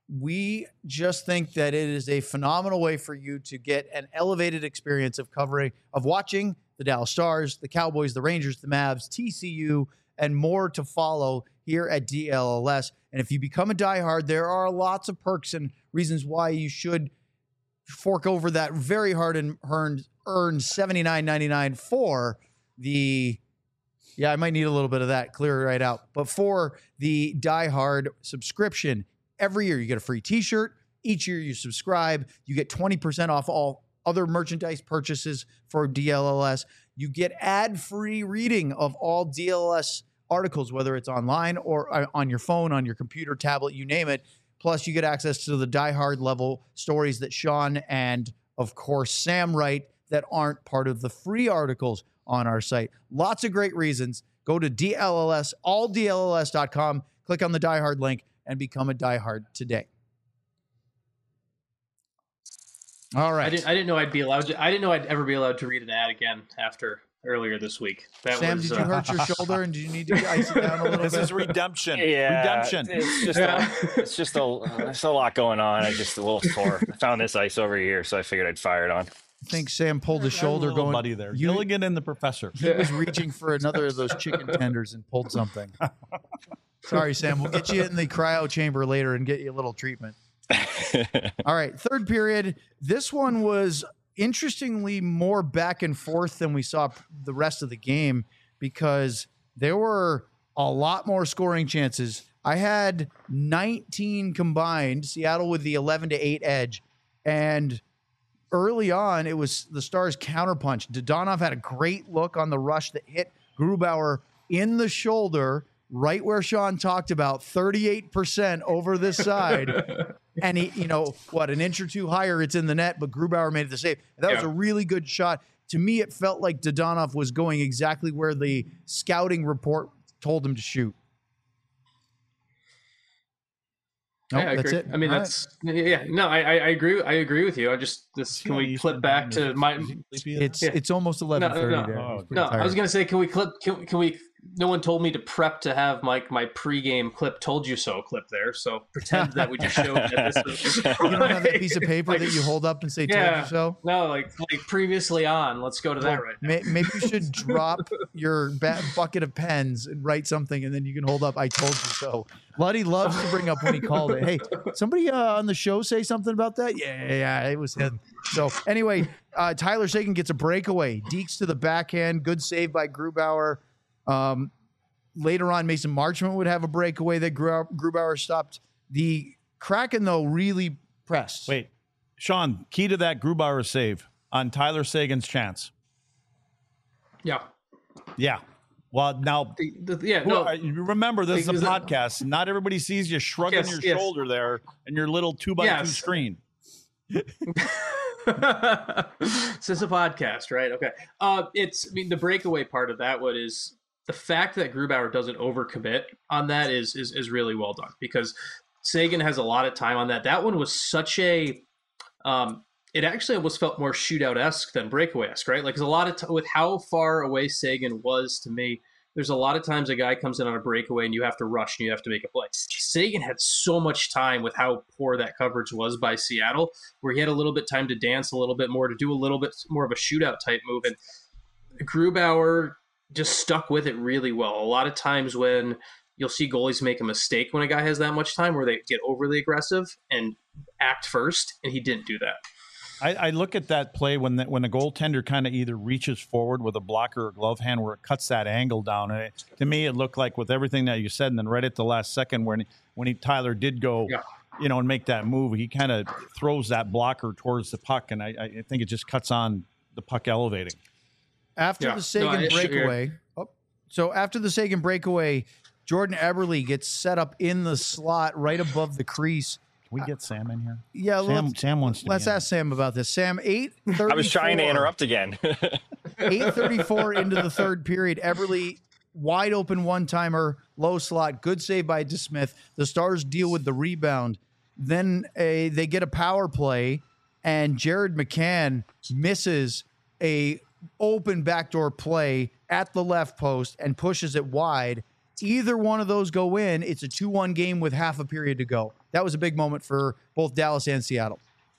we just think that it is a phenomenal way for you to get an elevated experience of covering, of watching the Dallas Stars, the Cowboys, the Rangers, the Mavs, T C U, and more to follow here at D L L S. And if you become a diehard, there are lots of perks and reasons why you should fork over that very hard and earned, earned seventy-nine ninety-nine for the, yeah, I might need a little bit of that, clear it right out. But for the diehard subscription, every year you get a free t-shirt. Each year you subscribe, you get twenty percent off all other merchandise purchases for D L L S. You get ad-free reading of all D L L S articles, whether it's online or on your phone, on your computer, tablet, you name it. Plus, you get access to the Die Hard level stories that Sean and, of course, Sam write that aren't part of the free articles on our site. Lots of great reasons. Go to D L L S, all D L L S dot com, click on the Die Hard link, and become a Die Hard today. All right. I didn't. I didn't know I'd be allowed. To, I didn't know I'd ever be allowed to read an ad again after earlier this week. That Sam, was, did you uh, hurt your shoulder and do you need to ice it down a little This bit? is redemption. Yeah, Redemption. It's just a, it's just a there's a lot going on. I just a little sore. I found this ice over here, so I figured I'd fire it on. I think Sam pulled his shoulder Little going. buddy there. You- Gilligan and the professor. He was reaching for another of those chicken tenders and pulled something. Sorry, Sam. We'll get you in the cryo chamber later and get you a little treatment. All right, third period. This one was interestingly more back and forth than we saw the rest of the game because there were a lot more scoring chances. I had nineteen combined, Seattle with the eleven to eight edge. And early on, it was the Stars counterpunch. Dadonov had a great look on the rush that hit Grubauer in the shoulder, right where Sean talked about, thirty-eight percent over this side. And he, you know, what, an inch or two higher, it's in the net, but Grubauer made the save. That yeah. was a really good shot. To me, it felt like Dadonov was going exactly where the scouting report told him to shoot. No, yeah, that's it. I mean, All that's right. yeah. No, I, I agree. I agree with you. I just this. Can we clip back to my? It's yeah. it's almost eleven thirty. No, no, there. Oh, no I was gonna say, can we clip? Can, can we? No one told me to prep to have my my pregame clip. Told you so clip there. So pretend that we just showed that this is. You don't have that piece of paper like, that you hold up and say "told yeah, you so." No, like like previously on. Let's go to well, that right now. May, maybe you should drop your ba- bucket of pens and write something, and then you can hold up "I told you so." Luddy loves to bring up when he called it. Hey, somebody uh, on the show say something about that? Yeah, yeah, it was him. So anyway, uh, Tyler Seguin gets a breakaway. Deeks to the backhand. Good save by Grubauer. Um, later on, Mason Marchment would have a breakaway that Grubauer stopped. The Kraken, though, really pressed. Wait, Sean, key to that Grubauer save on Tyler Seguin's chance. Yeah. Yeah. Well, now, the, the, yeah, no. remember, this is a podcast. That, Not everybody sees you shrugging yes, your yes. shoulder there and your little two by yes. two screen. This is a podcast, right? Okay. Uh, it's, I mean, the breakaway part of that one is the fact that Grubauer doesn't overcommit on that is, is, is really well done because Seguin has a lot of time on that. That one was such a, um, it actually almost felt more shootout-esque than breakaway-esque, right? Like, there's a lot of, t- with how far away Seguin was to me, there's a lot of times a guy comes in on a breakaway and you have to rush and you have to make a play. Seguin had so much time with how poor that coverage was by Seattle, where he had a little bit time to dance a little bit more, to do a little bit more of a shootout type move. And Grubauer just stuck with it really well. A lot of times when you'll see goalies make a mistake when a guy has that much time, where they get overly aggressive and act first, and he didn't do that. I, I look at that play when the, when the goaltender kind of either reaches forward with a blocker or glove hand where it cuts that angle down. And it, to me, it looked like with everything that you said, and then right at the last second when when he Tyler did go, yeah. you know, and make that move, he kind of throws that blocker towards the puck, and I, I think it just cuts on the puck elevating. After yeah. the Seguin no, breakaway, sure. oh, so after the Seguin breakaway, Jordan Eberle gets set up in the slot right above the crease. We get Sam in here. Yeah, Sam. Sam wants to. Let's ask Sam about this. Sam, eight thirty-four. I was trying to interrupt again. eight thirty-four into the third period. Eberle wide open one timer, low slot, good save by DeSmith. The Stars deal with the rebound. Then a they get a power play, and Jared McCann misses a open backdoor play at the left post and pushes it wide. Either one of those go in. It's a two one game with half a period to go. That was a big moment for both Dallas and Seattle.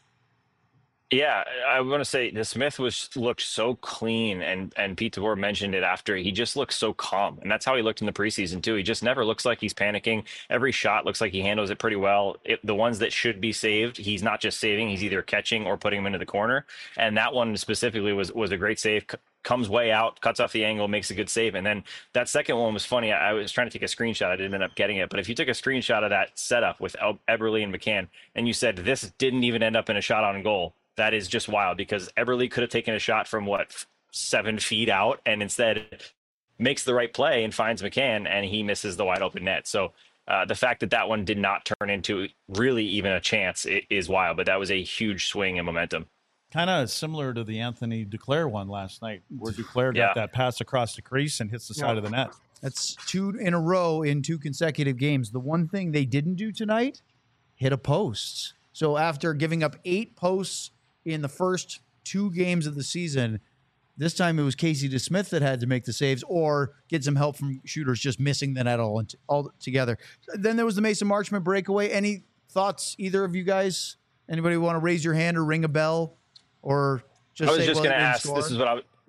Yeah, I want to say DeSmith was looked so clean, and and Pete DeBoer mentioned it after. He just looks so calm, and that's how he looked in the preseason too. He just never looks like he's panicking. Every shot looks like he handles it pretty well. It, the ones that should be saved, he's not just saving; he's either catching or putting them into the corner. And that one specifically was was a great save. Comes way out, cuts off the angle, makes a good save. And then that second one was funny. I was trying to take a screenshot. I didn't end up getting it. But if you took a screenshot of that setup with Eberle and McCann, and you said this didn't even end up in a shot on goal, that is just wild, because Eberle could have taken a shot from, what, seven feet out, and instead makes the right play and finds McCann, and he misses the wide open net. So uh, the fact that that one did not turn into really even a chance is wild. But that was a huge swing in momentum. Kind of similar to the Anthony Duclair one last night, where Duclair got yeah. that pass across the crease and hits the side yeah. of the net. That's two in a row in two consecutive games. The one thing they didn't do tonight, hit a post. So after giving up eight posts in the first two games of the season, this time it was Casey DeSmith that had to make the saves or get some help from shooters just missing the net all, all together. Then there was the Mason Marchment breakaway. Any thoughts, either of you guys? Anybody want to raise your hand or ring a bell? Or just I was say, just well, going to ask. Score? This is what I. Yeah,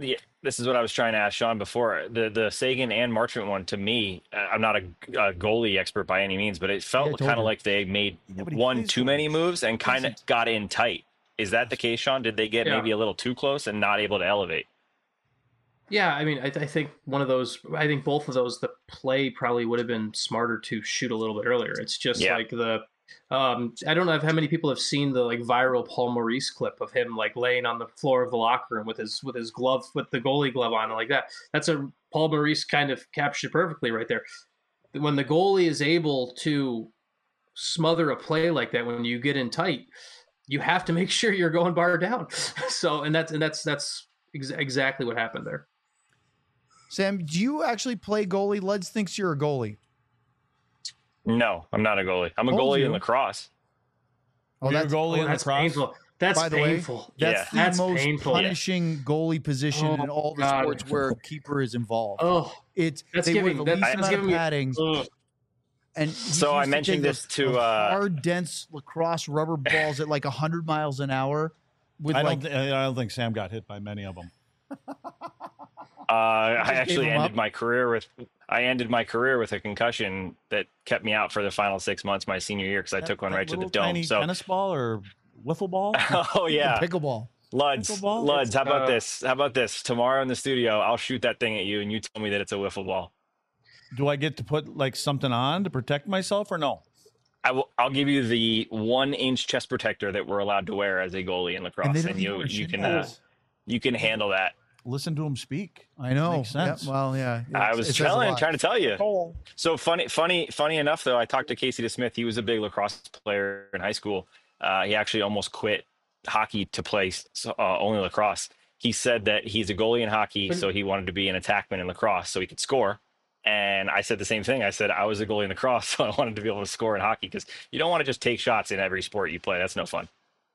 this is what I was trying to ask Sean before. The the Sagan and Marchment one, to me, I'm not a, a goalie expert by any means, but it felt Yeah, kind you. of like they made Yeah, but he one plays too goalies. many moves and kind of got in tight. Is that the case, Sean? Did they get Yeah. maybe a little too close and not able to elevate? Yeah, I mean, I, I think one of those. I think both of those. The play probably would have been smarter to shoot a little bit earlier. It's just Yeah. like the. Um, I don't know how many people have seen the like viral Paul Maurice clip of him like laying on the floor of the locker room with his with his glove with the goalie glove on like that. That's a Paul Maurice kind of captured perfectly right there. When the goalie is able to smother a play like that, when you get in tight, you have to make sure you're going bar down. So, and that's and that's that's ex- exactly what happened there. Sam, do you actually play goalie? Luds thinks you're a goalie. No, I'm not a goalie. I'm a Told goalie you. in lacrosse. Oh, You're a that's goalie Oh, in that's lacrosse. painful. That's by the way, painful. that's Yeah. the That's most painful. punishing goalie position Oh, in all the God. sports where a keeper is involved. Oh, It's That's they giving- wear the least that's- amount that's of giving me- padding. ugh. And So I mentioned this to, uh, hard, dense lacrosse rubber balls at like hundred miles an hour. With I like, don't. Th- I don't think Sam got hit by many of them. Uh, I gave actually him ended up? my career with I ended my career with a concussion that kept me out for the final six months my senior year because I took one That right to the little dome. tiny So, tennis ball or wiffle ball. oh yeah, pickleball. Luds, Pickleball? Luds. How about Uh, this? How about this? Tomorrow in the studio, I'll shoot that thing at you, and you tell me that it's a wiffle ball. Do I get to put like something on to protect myself or no? I will. I'll give you the one-inch chest protector that we're allowed to wear as a goalie in lacrosse, And they and, don't you even wear you shin can uh, pads. you can handle that. Listen to him speak. I know. Makes sense. Yeah, well, yeah. I it's- was it says a telling, lot. trying to tell you. Oh. So funny, funny, funny enough though. I talked to Casey DeSmith. He was a big lacrosse player in high school. Uh, he actually almost quit hockey to play uh, only lacrosse. He said that he's a goalie in hockey, so he wanted to be an attackman in lacrosse so he could score. And I said the same thing. I said I was a goalie in lacrosse, so I wanted to be able to score in hockey because you don't want to just take shots in every sport you play. That's no fun.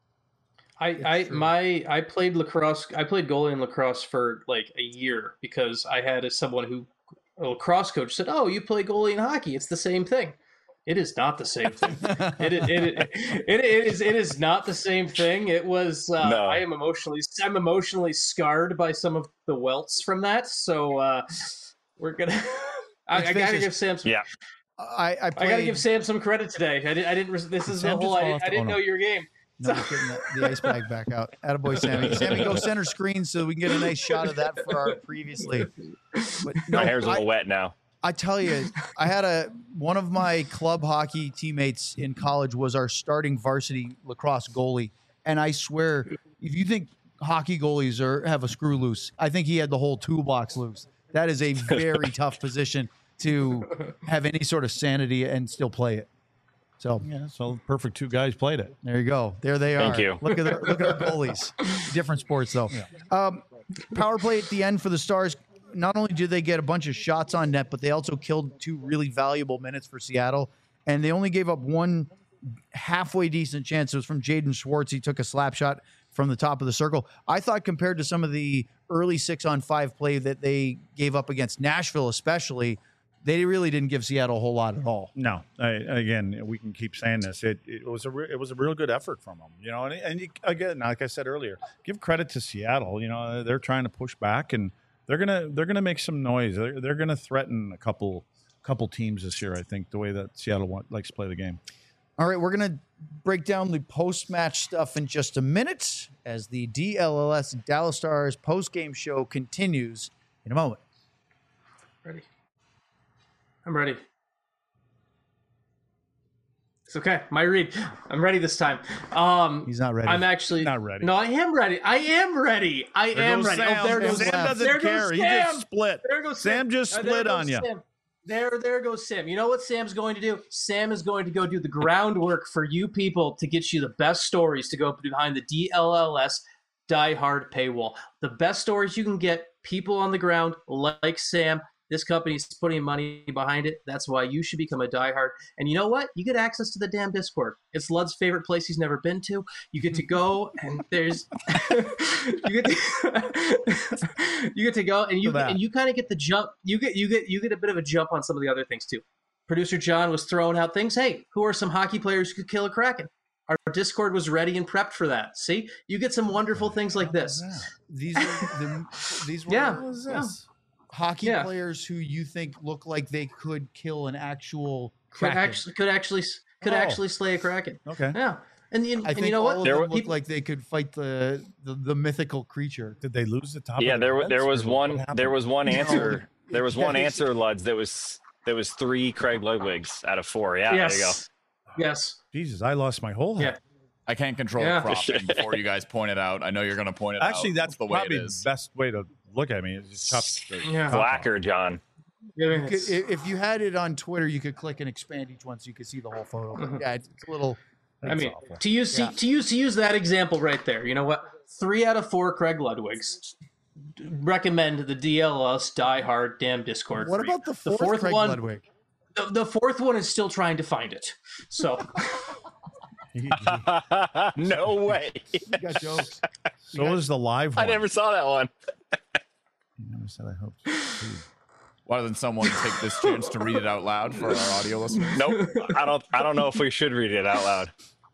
I, I true. my I played lacrosse. I played goalie in lacrosse for like a year because I had a, someone who a lacrosse coach said, "Oh, you play goalie in hockey? It's the same thing." It is not the same thing. it, it, it, it, it is it is not the same thing. It was. Uh, No. I am emotionally I'm emotionally scarred by some of the welts from that. So uh, we're gonna. I, Let's I gotta face it. give Sam some. Yeah. I, I, I played, gotta give Sam some credit today. I didn't. I didn't. res- This is Sam the whole. just I, fell off I the- didn't oh, know no. your game. No, we're getting the, the ice bag back out. Attaboy, Sammy. Sammy, go center screen so we can get a nice shot of that for our previously. But no, My hair's a I, little wet now. I tell you, I had a one of my club hockey teammates in college was our starting varsity lacrosse goalie, and I swear, if you think hockey goalies are have a screw loose, I think he had the whole toolbox loose. That is a very tough position to have any sort of sanity and still play it. So Yeah. So perfect. Two guys played it. there you go. There they are. Thank you. Look at their, look at our goalies. Different sports though. Um, power play at the end for the Stars. Not only did they get a bunch of shots on net, but they also killed two really valuable minutes for Seattle. And they only gave up one halfway decent chance. It was from Jaden Schwartz. He took a slap shot from the top of the circle. I thought compared to some of the early six on five play that they gave up against Nashville, especially, they really didn't give Seattle a whole lot at all. No, I, again, we can keep saying this. It, it was a re- it was a real good effort from them, you know. And, and you, again, like I said earlier, give credit to Seattle. You know, they're trying to push back, and they're gonna they're gonna make some noise. They're, they're gonna threaten a couple couple teams this year. I think the way that Seattle want, likes to play the game. All right, we're going to break down the post-match stuff in just a minute as the D L L S Dallas Stars post-game show continues in a moment. Ready. I'm ready. It's okay. My read. I'm ready this time. Um, He's not ready. I'm actually Not ready. No, I am ready. I am ready. I There am goes ready. Sam. Oh, there goes Sam Sam. doesn't There goes care. He Sam. just split. There goes Sam just Uh, there split goes on you. Sam. There, there goes Sam. You know what Sam's going to do? Sam is going to go do the groundwork for you people to get you the best stories to go behind the D L L S Die Hard paywall. The best stories you can get, people on the ground like Sam. This company's putting money behind it. That's why you should become a diehard. And you know what? You get access to the damn Discord. It's Lud's favorite place he's never been to. You get to go and there's you get to, you get to go and you that. and you kind of get the jump. You get you get you get a bit of a jump on some of the other things too. Producer John was throwing out things. Hey, who are some hockey players who could kill a Kraken? Our Discord was ready and prepped for that. See, you get some wonderful things like this. These are the, these were Yeah, what was yeah. this? Hockey Yeah. players who you think look like they could kill an actual Could kraken. actually, could actually, could Oh. actually slay a kraken. Okay. Yeah, and you, I and think you know all what? of There them were- look like they could fight the the, the mythical creature. Did they lose the top? Yeah, of there their wa- there heads, was or what one happened? there was one answer. There was one Yeah. answer, Luds, that was that was three Craig Ludwigs out of four. Yeah, there you go. yes, yes. Jesus, I lost my whole head. I can't control Yeah. the cropping before you guys point it out. I know you're going to point it out. Actually, that's the way probably it the is. best way to look at me. Is just chop the Yeah. top off. Blacker, John. I mean, You could, it's- i- if you had it on Twitter, you could click and expand each one so you could see the whole photo. But Mhm. yeah, it's, it's a little. I mean, awful. to use Yeah. to use to use that example right there. You know what? Three out of four Craig Ludwigs. Recommend the D L S Die Hard damn Discord. What for you. about the fourth, Craig one? Ludwig? The, the fourth one is still trying to find it. So He- he- No way. You got jokes. so is the live I one. never saw that one. You never said I hope so, too. Why doesn't someone take this chance to read it out loud for our audio listeners? Nope. I don't I don't know if we should read it out loud.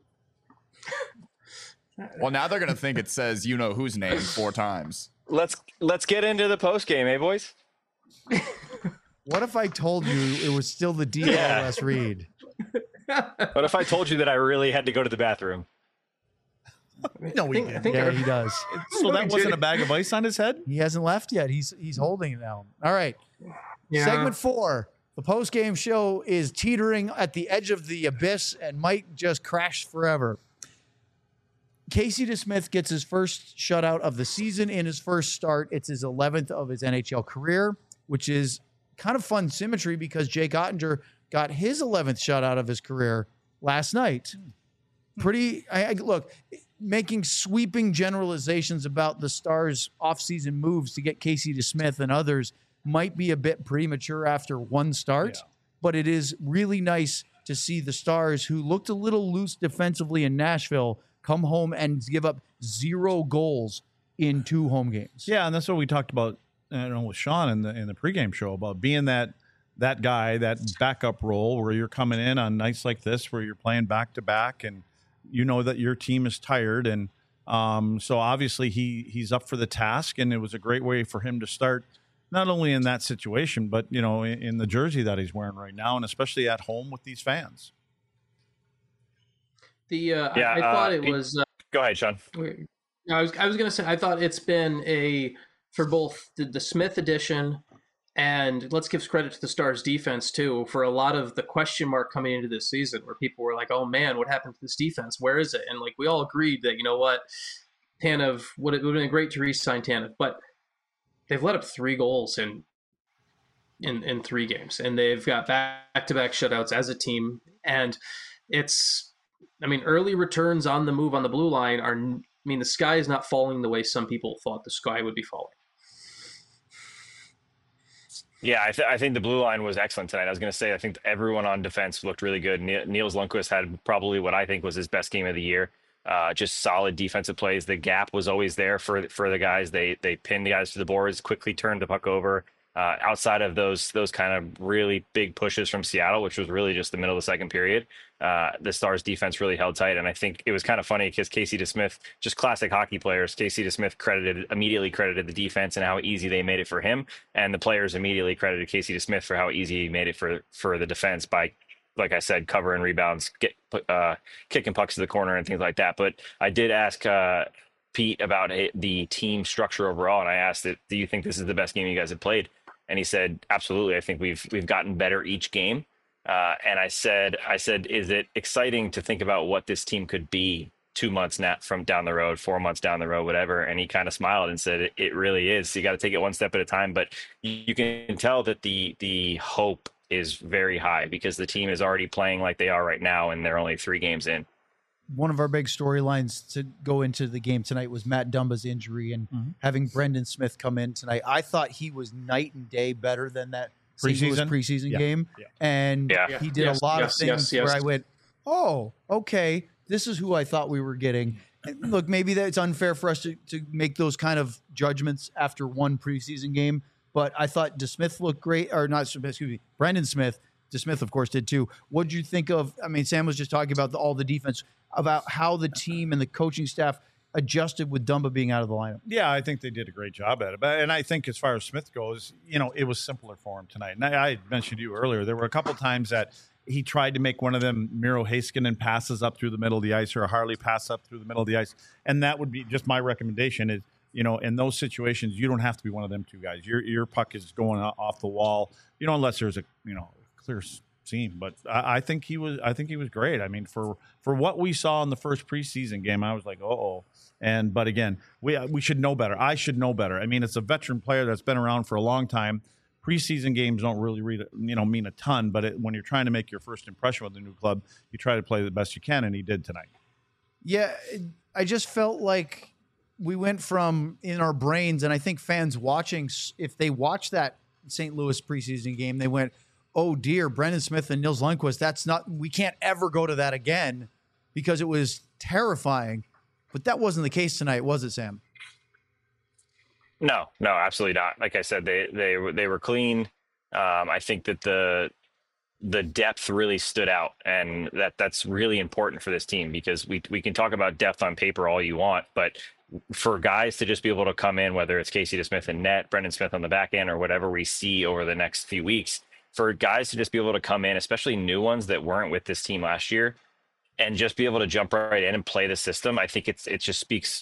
Well, now they're going to think it says you know whose name four times. Let's let's get into the post game, eh, boys? What if I told you it was still the D L S read? What if I told you that I really had to go to the bathroom? No, we I think, I didn't. think Yeah, our- he does. So that wasn't a bag of ice on his head? He hasn't left yet. He's he's holding it now. All right. yeah. Segment four. The post game show is teetering at the edge of the abyss and might just crash forever. Casey DeSmith gets his first shutout of the season in his first start. It's his eleventh of his N H L career, which is kind of fun symmetry because Jake Ottinger got his eleventh shutout of his career last night. Pretty, I, I look, making sweeping generalizations about the Stars' offseason moves to get Casey DeSmith and others might be a bit premature after one start, Yeah. but it is really nice to see the Stars, who looked a little loose defensively in Nashville, come home and give up zero goals in two home games. Yeah, and that's what we talked about. I don't know with Sean in the in the pregame show about being that that guy, that backup role where you're coming in on nights like this, where you're playing back to back, and you know that your team is tired, and um, so obviously he he's up for the task, and it was a great way for him to start, not only in that situation, but you know in, in the jersey that he's wearing right now, and especially at home with these fans. The uh, Yeah, I, I thought uh, it Pete- was. Uh, Go ahead, Sean. I was I was gonna say I thought it's been a for both the, the Smith edition and let's give credit to the Stars defense too for a lot of the question mark coming into this season where people were like, oh man, what happened to this defense? Where is it? And like we all agreed that, you know what, Tanev would it would have been great to re-sign Tanev, but they've let up three goals in in in three games, and they've got back to back shutouts as a team, and it's I mean early returns on the move on the blue line are. I mean, the sky is not falling the way some people thought the sky would be falling. Yeah, I, th- I think the blue line was excellent tonight. I was going to say, I think everyone on defense looked really good. Ne- Niels Lundqvist had probably what I think was his best game of the year. Uh, just solid defensive plays. The gap was always there for for the guys. They they pinned the guys to the boards, quickly turned the puck over. Uh, outside of those those kind of really big pushes from Seattle, which was really just the middle of the second period, uh, the Stars defense really held tight. And I think it was kind of funny because Casey DeSmith, just classic hockey players, Casey DeSmith credited immediately credited the defense and how easy they made it for him, and the players immediately credited Casey DeSmith for how easy he made it for for the defense by, like I said, covering rebounds, get uh, kicking pucks to the corner and things like that. But I did ask uh, Pete about it, the team structure overall, and I asked it, do you think this is the best game you guys have played? And he said, absolutely. I think we've we've gotten better each game. Uh, and I said, I said, is it exciting to think about what this team could be two months now from down the road, four months down the road, whatever? And he kind of smiled and said, it, it really is. You got to take it one step at a time. But you, you can tell that the the hope is very high because the team is already playing like they are right now, and they're only three games in. One of our big storylines to go into the game tonight was Matt Dumba's injury and Mhm. having Brendan Smith come in tonight. I thought he was night and day better than that Saint Louis Preseason? preseason Yeah. game. Yeah. And Yeah. he did Yes, a lot yes, of things yes, yes. where I went, oh, okay, this is who I thought we were getting. And look, maybe that's unfair for us to, to make those kind of judgments after one preseason game, but I thought DeSmith looked great, or not, excuse me, Brendan Smith DeSmith, of course, did too. What did you think of? I mean, Sam was just talking about the, all the defense, about how the team and the coaching staff adjusted with Dumba being out of the lineup. Yeah, I think they did a great job at it. But and I think as far as Smith goes, you know, it was simpler for him tonight. And I, I mentioned to you earlier, there were a couple times that he tried to make one of them Miro Heiskanen passes up through the middle of the ice or a Harley pass up through the middle of the ice. And that would be just my recommendation is, you know, in those situations, you don't have to be one of them two guys. Your your puck is going off the wall, you know, unless there's a, you know, clear seam. But I, I think he was I think he was great. I mean, for for what we saw in the first preseason game, I was like, uh-oh. And but again, we we should know better. I should know better. I mean, it's a veteran player that's been around for a long time. Preseason games don't really read, you know, mean a ton, but it, when you're trying to make your first impression with a new club, you try to play the best you can, and he did tonight. Yeah, I just felt like we went from in our brains, and I think fans watching, if they watch that Saint Louis preseason game, they went, "Oh dear, Brendan Smith and Nils Lundkvist. That's not. We can't ever go to that again," because it was terrifying. But that wasn't the case tonight, was it, Sam? No, no, absolutely not. Like I said, they they they were clean. Um, I think that the the depth really stood out, and that that's really important for this team because we we can talk about depth on paper all you want, but for guys to just be able to come in, whether it's Casey DeSmith and net, Brendan Smith on the back end, or whatever we see over the next few weeks, for guys to just be able to come in, especially new ones that weren't with this team last year, and just be able to jump right in and play the system, I think it's it just speaks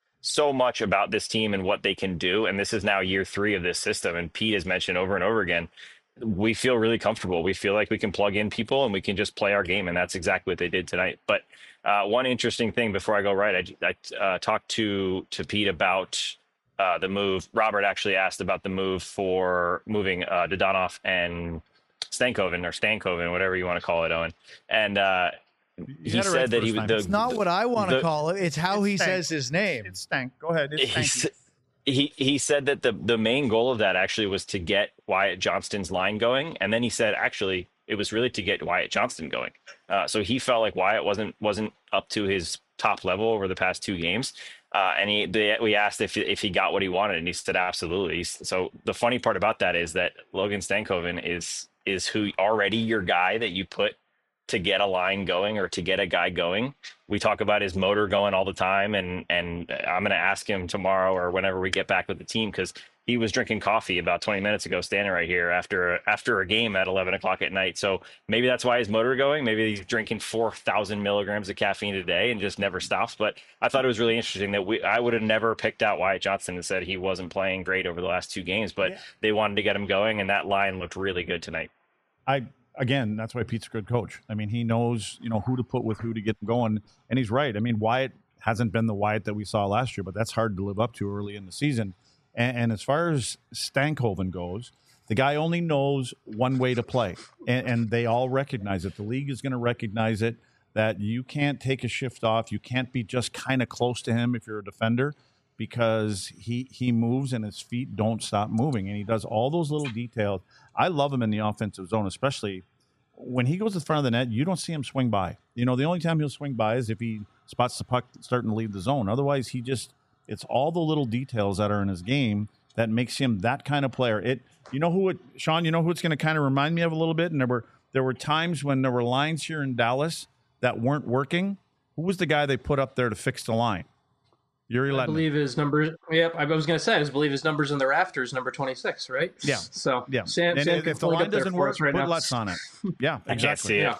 so much about this team and what they can do. And this is now year three of this system. And Pete has mentioned over and over again, we feel really comfortable. We feel like we can plug in people and we can just play our game. And that's exactly what they did tonight. But uh, one interesting thing before I go right, I, I uh, talked to, to Pete about uh, the move. Robert actually asked about the move for moving uh, Dodonov and Stankoven or Stankoven, whatever you want to call it, Owen. And, uh, You he said that he time. the, It's not what I want to the- call it. It's how It's he stank. says his name. It's stank. Go ahead. It's he, stanky. s- he he said that the the main goal of that actually was to get Wyatt Johnston's line going, and then he said actually it was really to get Wyatt Johnston going. Uh, so he felt like Wyatt wasn't wasn't up to his top level over the past two games, uh, and he they, we asked if if he got what he wanted, and he said absolutely. He's, so the funny part about that is that Logan Stankoven is is who already your guy that you put to get a line going or to get a guy going. We talk about his motor going all the time, and and I'm going to ask him tomorrow or whenever we get back with the team, because he was drinking coffee about twenty minutes ago, standing right here after after a game at eleven o'clock at night. So maybe that's why his motor going. Maybe he's drinking four thousand milligrams of caffeine a day and just never stops. But I thought it was really interesting that we I would have never picked out Wyatt Johnston and said he wasn't playing great over the last two games, but Yeah. they wanted to get him going, and that line looked really good tonight. I again, that's why Pete's a good coach. I mean, he knows, you know, who to put with who to get them going, and he's right. I mean, Wyatt hasn't been the Wyatt that we saw last year, but that's hard to live up to early in the season. And, and as far as Stankoven goes, the guy only knows one way to play, and, and they all recognize it. The league is going to recognize it, that you can't take a shift off. You can't be just kind of close to him if you're a defender, because he he moves and his feet don't stop moving, and he does all those little details. I love him in the offensive zone, especially when he goes to the front of the net. You don't see him swing by. You know, the only time he'll swing by is if he spots the puck starting to leave the zone. Otherwise, he just, it's all the little details that are in his game that makes him that kind of player. It, you know who it, Sean, you know who it's going to kind of remind me of a little bit? And there were, there were times when there were lines here in Dallas that weren't working. Who was the guy they put up there to fix the line? Yuri I Letman. believe his numbers. Yep, I was going to say. I believe his numbers in the rafters, number twenty-six, right? Yeah. So Yeah. Sam, And Sam if can if the pull it line up there doesn't for work, us right put now. Lutz on it. Yeah, I can't exactly. see it.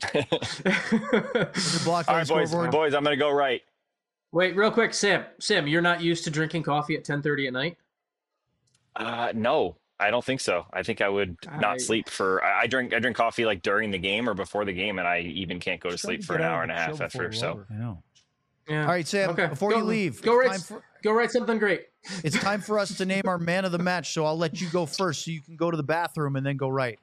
Yeah. Is it blocked All on right, the boys, scoreboard? boys, I'm going to go right. Wait, real quick, Sam. Sam, you're not used to drinking coffee at ten thirty at night? Uh, no, I don't think so. I think I would I- not sleep for. I, I drink. I drink coffee like during the game or before the game, and I even can't go to sleep for an hour and a half after. So I know. Yeah. All right, Sam, Okay. before Go- you leave, go it's write, time for- go write something great. It's time for us to name our man of the match, so I'll let you go first so you can go to the bathroom and then go right.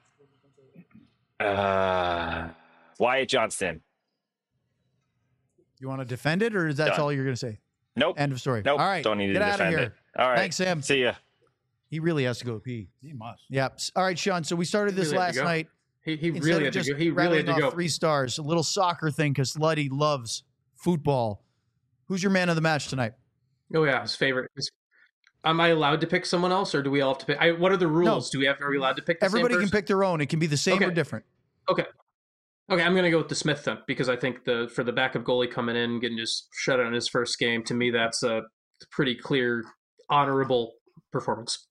uh, Wyatt Johnston. You want to defend it, or is that Done. all you're going to say? Nope. End of story. Nope. All right, Don't need to get out of defend here. it. All right. Thanks, Sam. See ya. He really has to go pee. He must. Yep. All right, Sean. So we started this Really had last to go. night. He, he Instead really of had to just go. He really rattling had to off go. three stars. A little soccer thing because Luddy loves football. Who's your man of the match tonight? Oh yeah, his favorite. His, am I allowed to pick someone else, or do we all have to pick? I, what are the rules? Do we have? Are we allowed to pick? The Everybody same can person? pick their own. It can be the same Okay. or different. Okay. Okay, I'm going to go with the Smith then, because I think the for the backup goalie coming in, getting just shut out in his first game, to me, that's a pretty clear, honorable performance.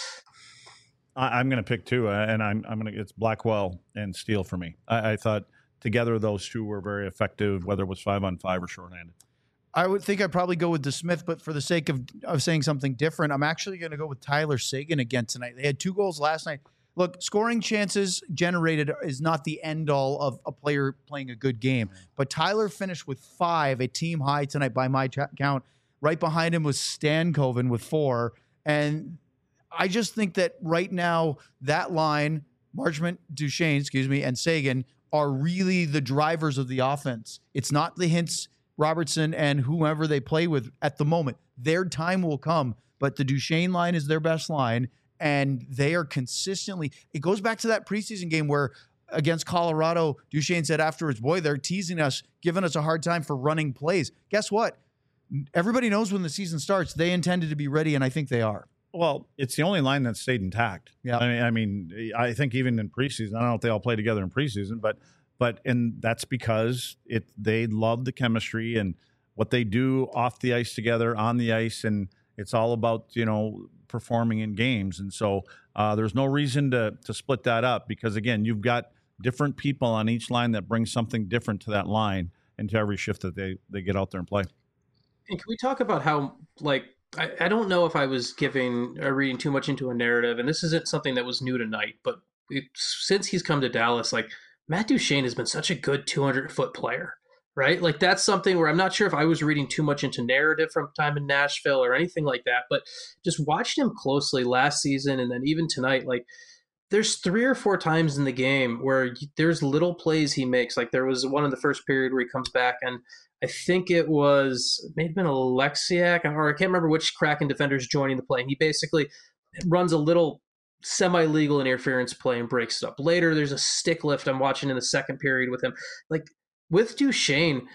I, I'm going to pick two, uh, and I'm I'm going to it's Blackwell and Steele for me. I, I thought together those two were very effective, whether it was five on five or shorthanded. I would think I'd probably go with DeSmith, but for the sake of, of saying something different, I'm actually going to go with Tyler Seguin again tonight. They had two goals last night. Look, scoring chances generated is not the end all of a player playing a good game, but Tyler finished with five, a team high tonight by my t- count. Right behind him was Stankoven with four. And I just think that right now that line, Marchment, Duchesne, excuse me, and Seguin are really the drivers of the offense. It's not the Hintz, Robertson, and whoever they play with at the moment. Their time will come, but the Duchesne line is their best line. And they are consistently, it goes back to that preseason game where against Colorado, Duchesne said afterwards, boy, they're teasing us, giving us a hard time for running plays. Guess what? Everybody knows when the season starts, they intended to be ready, and I think they are. Well, it's the only line that stayed intact. Yeah. I mean, I mean, I think even in preseason, I don't know if they all play together in preseason, but, but, and that's because it, they love the chemistry and what they do off the ice together, on the ice, and it's all about, you know, performing in games. And so uh, there's no reason to to split that up because, again, you've got different people on each line that bring something different to that line and to every shift that they, they get out there and play. And can we talk about how, like, I, I don't know if I was giving or reading too much into a narrative, and this isn't something that was new tonight, but it, since he's come to Dallas, like, Matt Duchesne has been such a good two hundred foot player. Right? Like that's something where I'm not sure if I was reading too much into narrative from time in Nashville or anything like that, but just watched him closely last season and then even tonight, like there's three or four times in the game where there's little plays he makes. Like there was one in the first period where he comes back and I think it was, it may have been Alexiak or I can't remember which Kraken defender's joining the play. And he basically runs a little semi-legal interference play and breaks it up. Later, there's a stick lift I'm watching in the second period with him. Like, with Duchesne,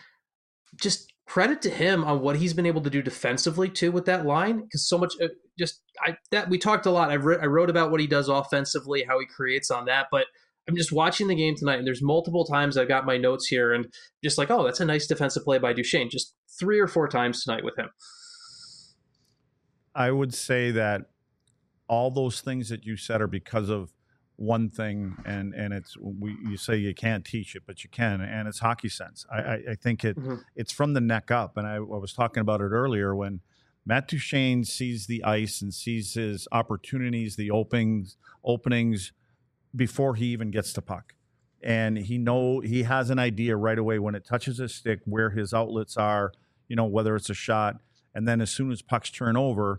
just credit to him on what he's been able to do defensively too with that line, because so much uh, just I that we talked a lot. I've re- I wrote about what he does offensively, how he creates on that, but I'm just watching the game tonight, and there's multiple times I got my notes here, and just like, oh, that's a nice defensive play by Duchesne. Just three or four times tonight with him. I would say that all those things that you said are because of one thing, and and it's we you say you can't teach it, but you can, and it's hockey sense. I I, I think it mm-hmm. it's from the neck up, and I, I was talking about it earlier when Matt Duchesne sees the ice and sees his opportunities, the openings openings before he even gets the puck, and he know he has an idea right away when it touches his stick where his outlets are. You know, whether it's a shot, and then as soon as pucks turn over.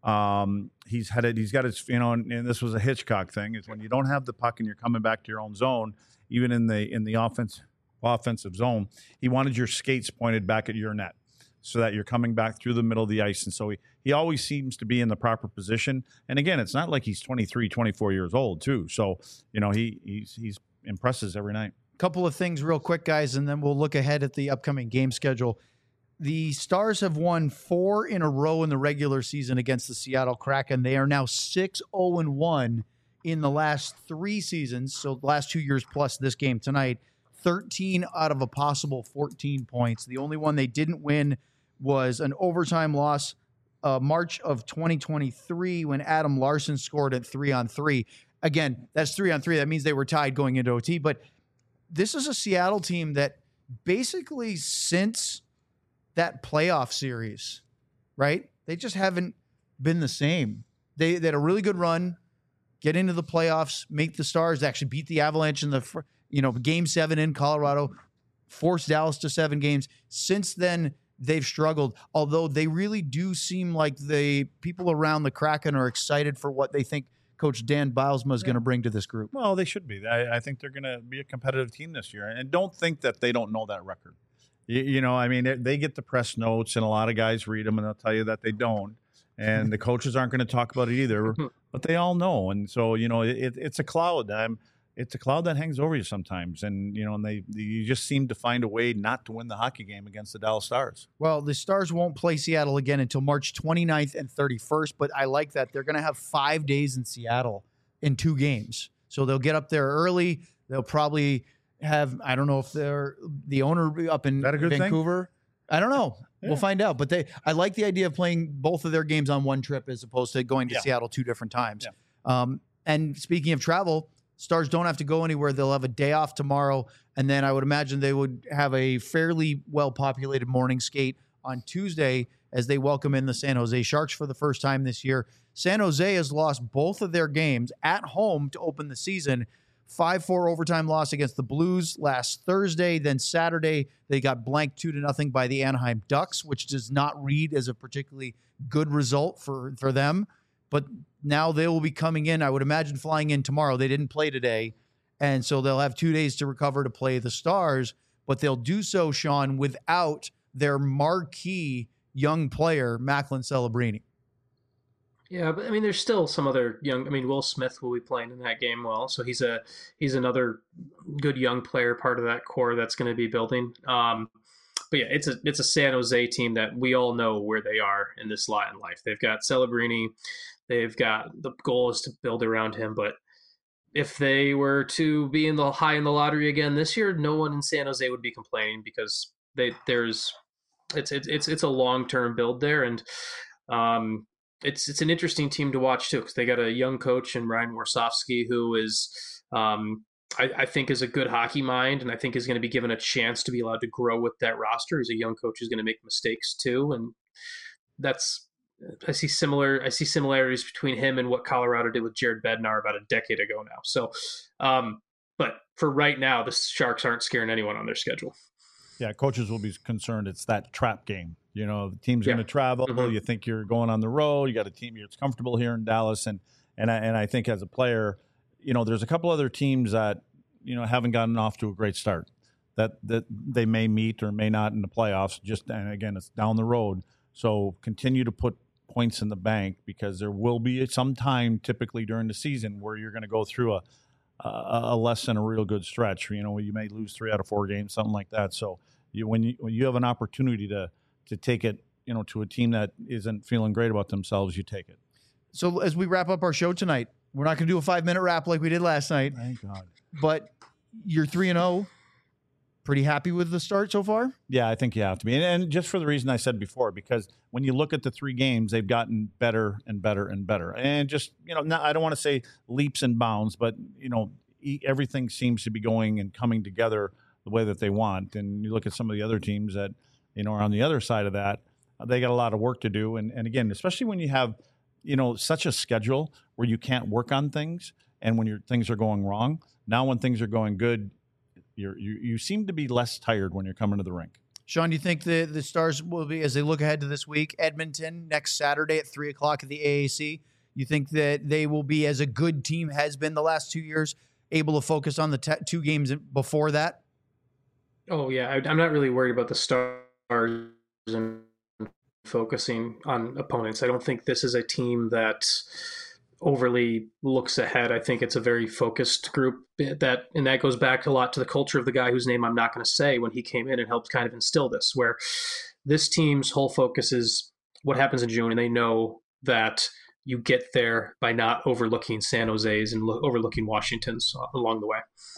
Um, he's headed, he's got his, you know, and, and this was a Hitchcock thing, is when you don't have the puck and you're coming back to your own zone, even in the, in the offense, offensive zone, he wanted your skates pointed back at your net so that you're coming back through the middle of the ice. And so he, he always seems to be in the proper position. And again, it's not like he's twenty-three, twenty-four years old too. So, you know, he, he's, he's impresses every night. Couple of things real quick, guys, and then we'll look ahead at the upcoming game schedule. The Stars have won four in a row in the regular season against the Seattle Kraken. They are now six oh and one in the last three seasons, so the last two years plus this game tonight, thirteen out of a possible fourteen points. The only one they didn't win was an overtime loss uh, March of twenty twenty-three when Adam Larson scored at three on three. Again, that's three on three. That means they were tied going into O T, but this is a Seattle team that basically since that playoff series, right? They just haven't been the same. They, they had a really good run, get into the playoffs, make the Stars actually beat the Avalanche in the, you know, game seven in Colorado, forced Dallas to seven games. Since then, they've struggled, although they really do seem like the people around the Kraken are excited for what they think Coach Dan Bylsma is yeah. going to bring to this group. Well, they should be. I, I think they're going to be a competitive team this year. And don't think that they don't know that record. You, you know, I mean, they get the press notes, and a lot of guys read them, and they'll tell you that they don't. And the coaches aren't going to talk about it either, but they all know. And so, you know, it, it's a cloud. I'm, it's a cloud that hangs over you sometimes. And, you know, and they, you just seem to find a way not to win the hockey game against the Dallas Stars. Well, the Stars won't play Seattle again until March twenty-ninth and thirty-first, but I like that. They're going to have five days in Seattle in two games. So they'll get up there early. They'll probably have, I don't know if they're the owner up in that a good Vancouver. Thing? I don't know. Yeah. We'll find out. But they, I like the idea of playing both of their games on one trip as opposed to going to Yeah. Seattle two different times. Yeah. Um, and speaking of travel, Stars don't have to go anywhere. They'll have a day off tomorrow. And then I would imagine they would have a fairly well-populated morning skate on Tuesday as they welcome in the San Jose Sharks for the first time this year. San Jose has lost both of their games at home to open the season. five four overtime loss against the Blues last Thursday. Then Saturday, they got blanked two to nothing by the Anaheim Ducks, which does not read as a particularly good result for, for them. But now they will be coming in, I would imagine, flying in tomorrow. They didn't play today. And so they'll have two days to recover to play the Stars. But they'll do so, Sean, without their marquee young player, Macklin Celebrini. Yeah, but I mean, there's still some other young. I mean, Will Smith will be playing in that game well, so he's a he's another good young player, part of that core that's going to be building. Um, but yeah, it's a it's a San Jose team that we all know where they are in this lot in life. They've got Celebrini, they've got the goal is to build around him. But if they were to be in the high in the lottery again this year, no one in San Jose would be complaining because they there's it's it's it's it's a long term build there and. Um, It's it's an interesting team to watch too because they got a young coach in Ryan Warsofsky who is, um, I, I think, is a good hockey mind and I think is going to be given a chance to be allowed to grow with that roster. He's a young coach who's going to make mistakes too, and that's I see similar I see similarities between him and what Colorado did with Jared Bednar about a decade ago now. So, um, but for right now, the Sharks aren't scaring anyone on their schedule. Yeah, coaches will be concerned. It's that trap game. You know, the team's Yeah. going to travel. Mhm. You think you're going on the road. You got a team that's comfortable here in Dallas, and and I, and I think as a player, you know, there's a couple other teams that you know haven't gotten off to a great start. That that they may meet or may not in the playoffs. Just and again, it's down the road. So continue to put points in the bank because there will be some time, typically during the season, where you're going to go through a a, a less than a real good stretch. You know, you may lose three out of four games, something like that. So you when you when you have an opportunity to to take it, you know, to a team that isn't feeling great about themselves, you take it. So as we wrap up our show tonight, we're not going to do a five-minute wrap like we did last night. Thank God. But you're three and oh. Pretty happy with the start so far? Yeah, I think you have to be. And, and just for the reason I said before, because when you look at the three games, they've gotten better and better and better. And just, you know, not, I don't want to say leaps and bounds, but, you know, e- everything seems to be going and coming together the way that they want. And you look at some of the other teams that, you know, are on the other side of that, uh, they got a lot of work to do. And, and again, especially when you have, you know, such a schedule where you can't work on things and when your things are going wrong. Now when things are going good, you're, you you seem to be less tired when you're coming to the rink. Sean, do you think the, the Stars will be, as they look ahead to this week, Edmonton next Saturday at three o'clock at the A A C, you think that they will be, as a good team has been the last two years, able to focus on the te- two games before that? Oh yeah, I, I'm not really worried about the Stars and focusing on opponents. I don't think this is a team that overly looks ahead. I think it's a very focused group that, and that goes back a lot to the culture of the guy whose name I'm not going to say when he came in and helped kind of instill this, where this team's whole focus is what happens in June. And they know that you get there by not overlooking San Jose's and lo- overlooking Washington's along the way.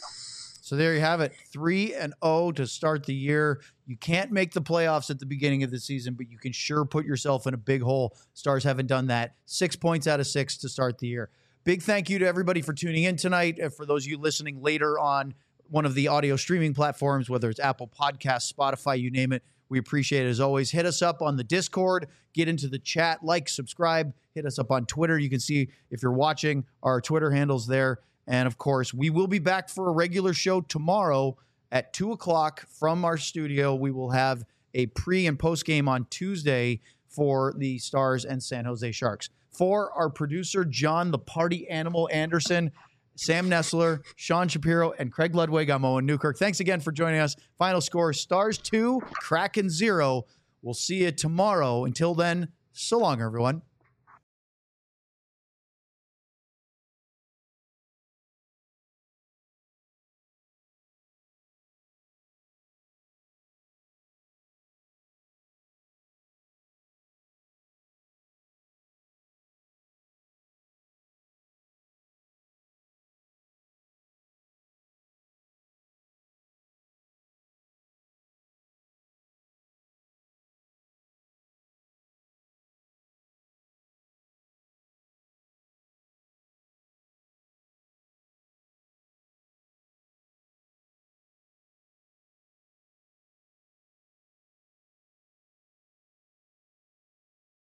So there you have it, three and oh to start the year. You can't make the playoffs at the beginning of the season, but you can sure put yourself in a big hole. Stars haven't done that. Six points out of six to start the year. Big thank you to everybody for tuning in tonight. Uh, For those of you listening later on one of the audio streaming platforms, whether it's Apple Podcasts, Spotify, you name it, we appreciate it as always. Hit us up on the Discord, get into the chat, like, subscribe, hit us up on Twitter. You can see if you're watching our Twitter handles there. And, of course, we will be back for a regular show tomorrow at two o'clock from our studio. We will have a pre- and post-game on Tuesday for the Stars and San Jose Sharks. For our producer, John the Party Animal Anderson, Sam Nessler, Sean Shapiro, and Craig Ludwig, I'm Owen Newkirk. Thanks again for joining us. Final score, Stars two, Kraken zero. We'll see you tomorrow. Until then, so long, everyone.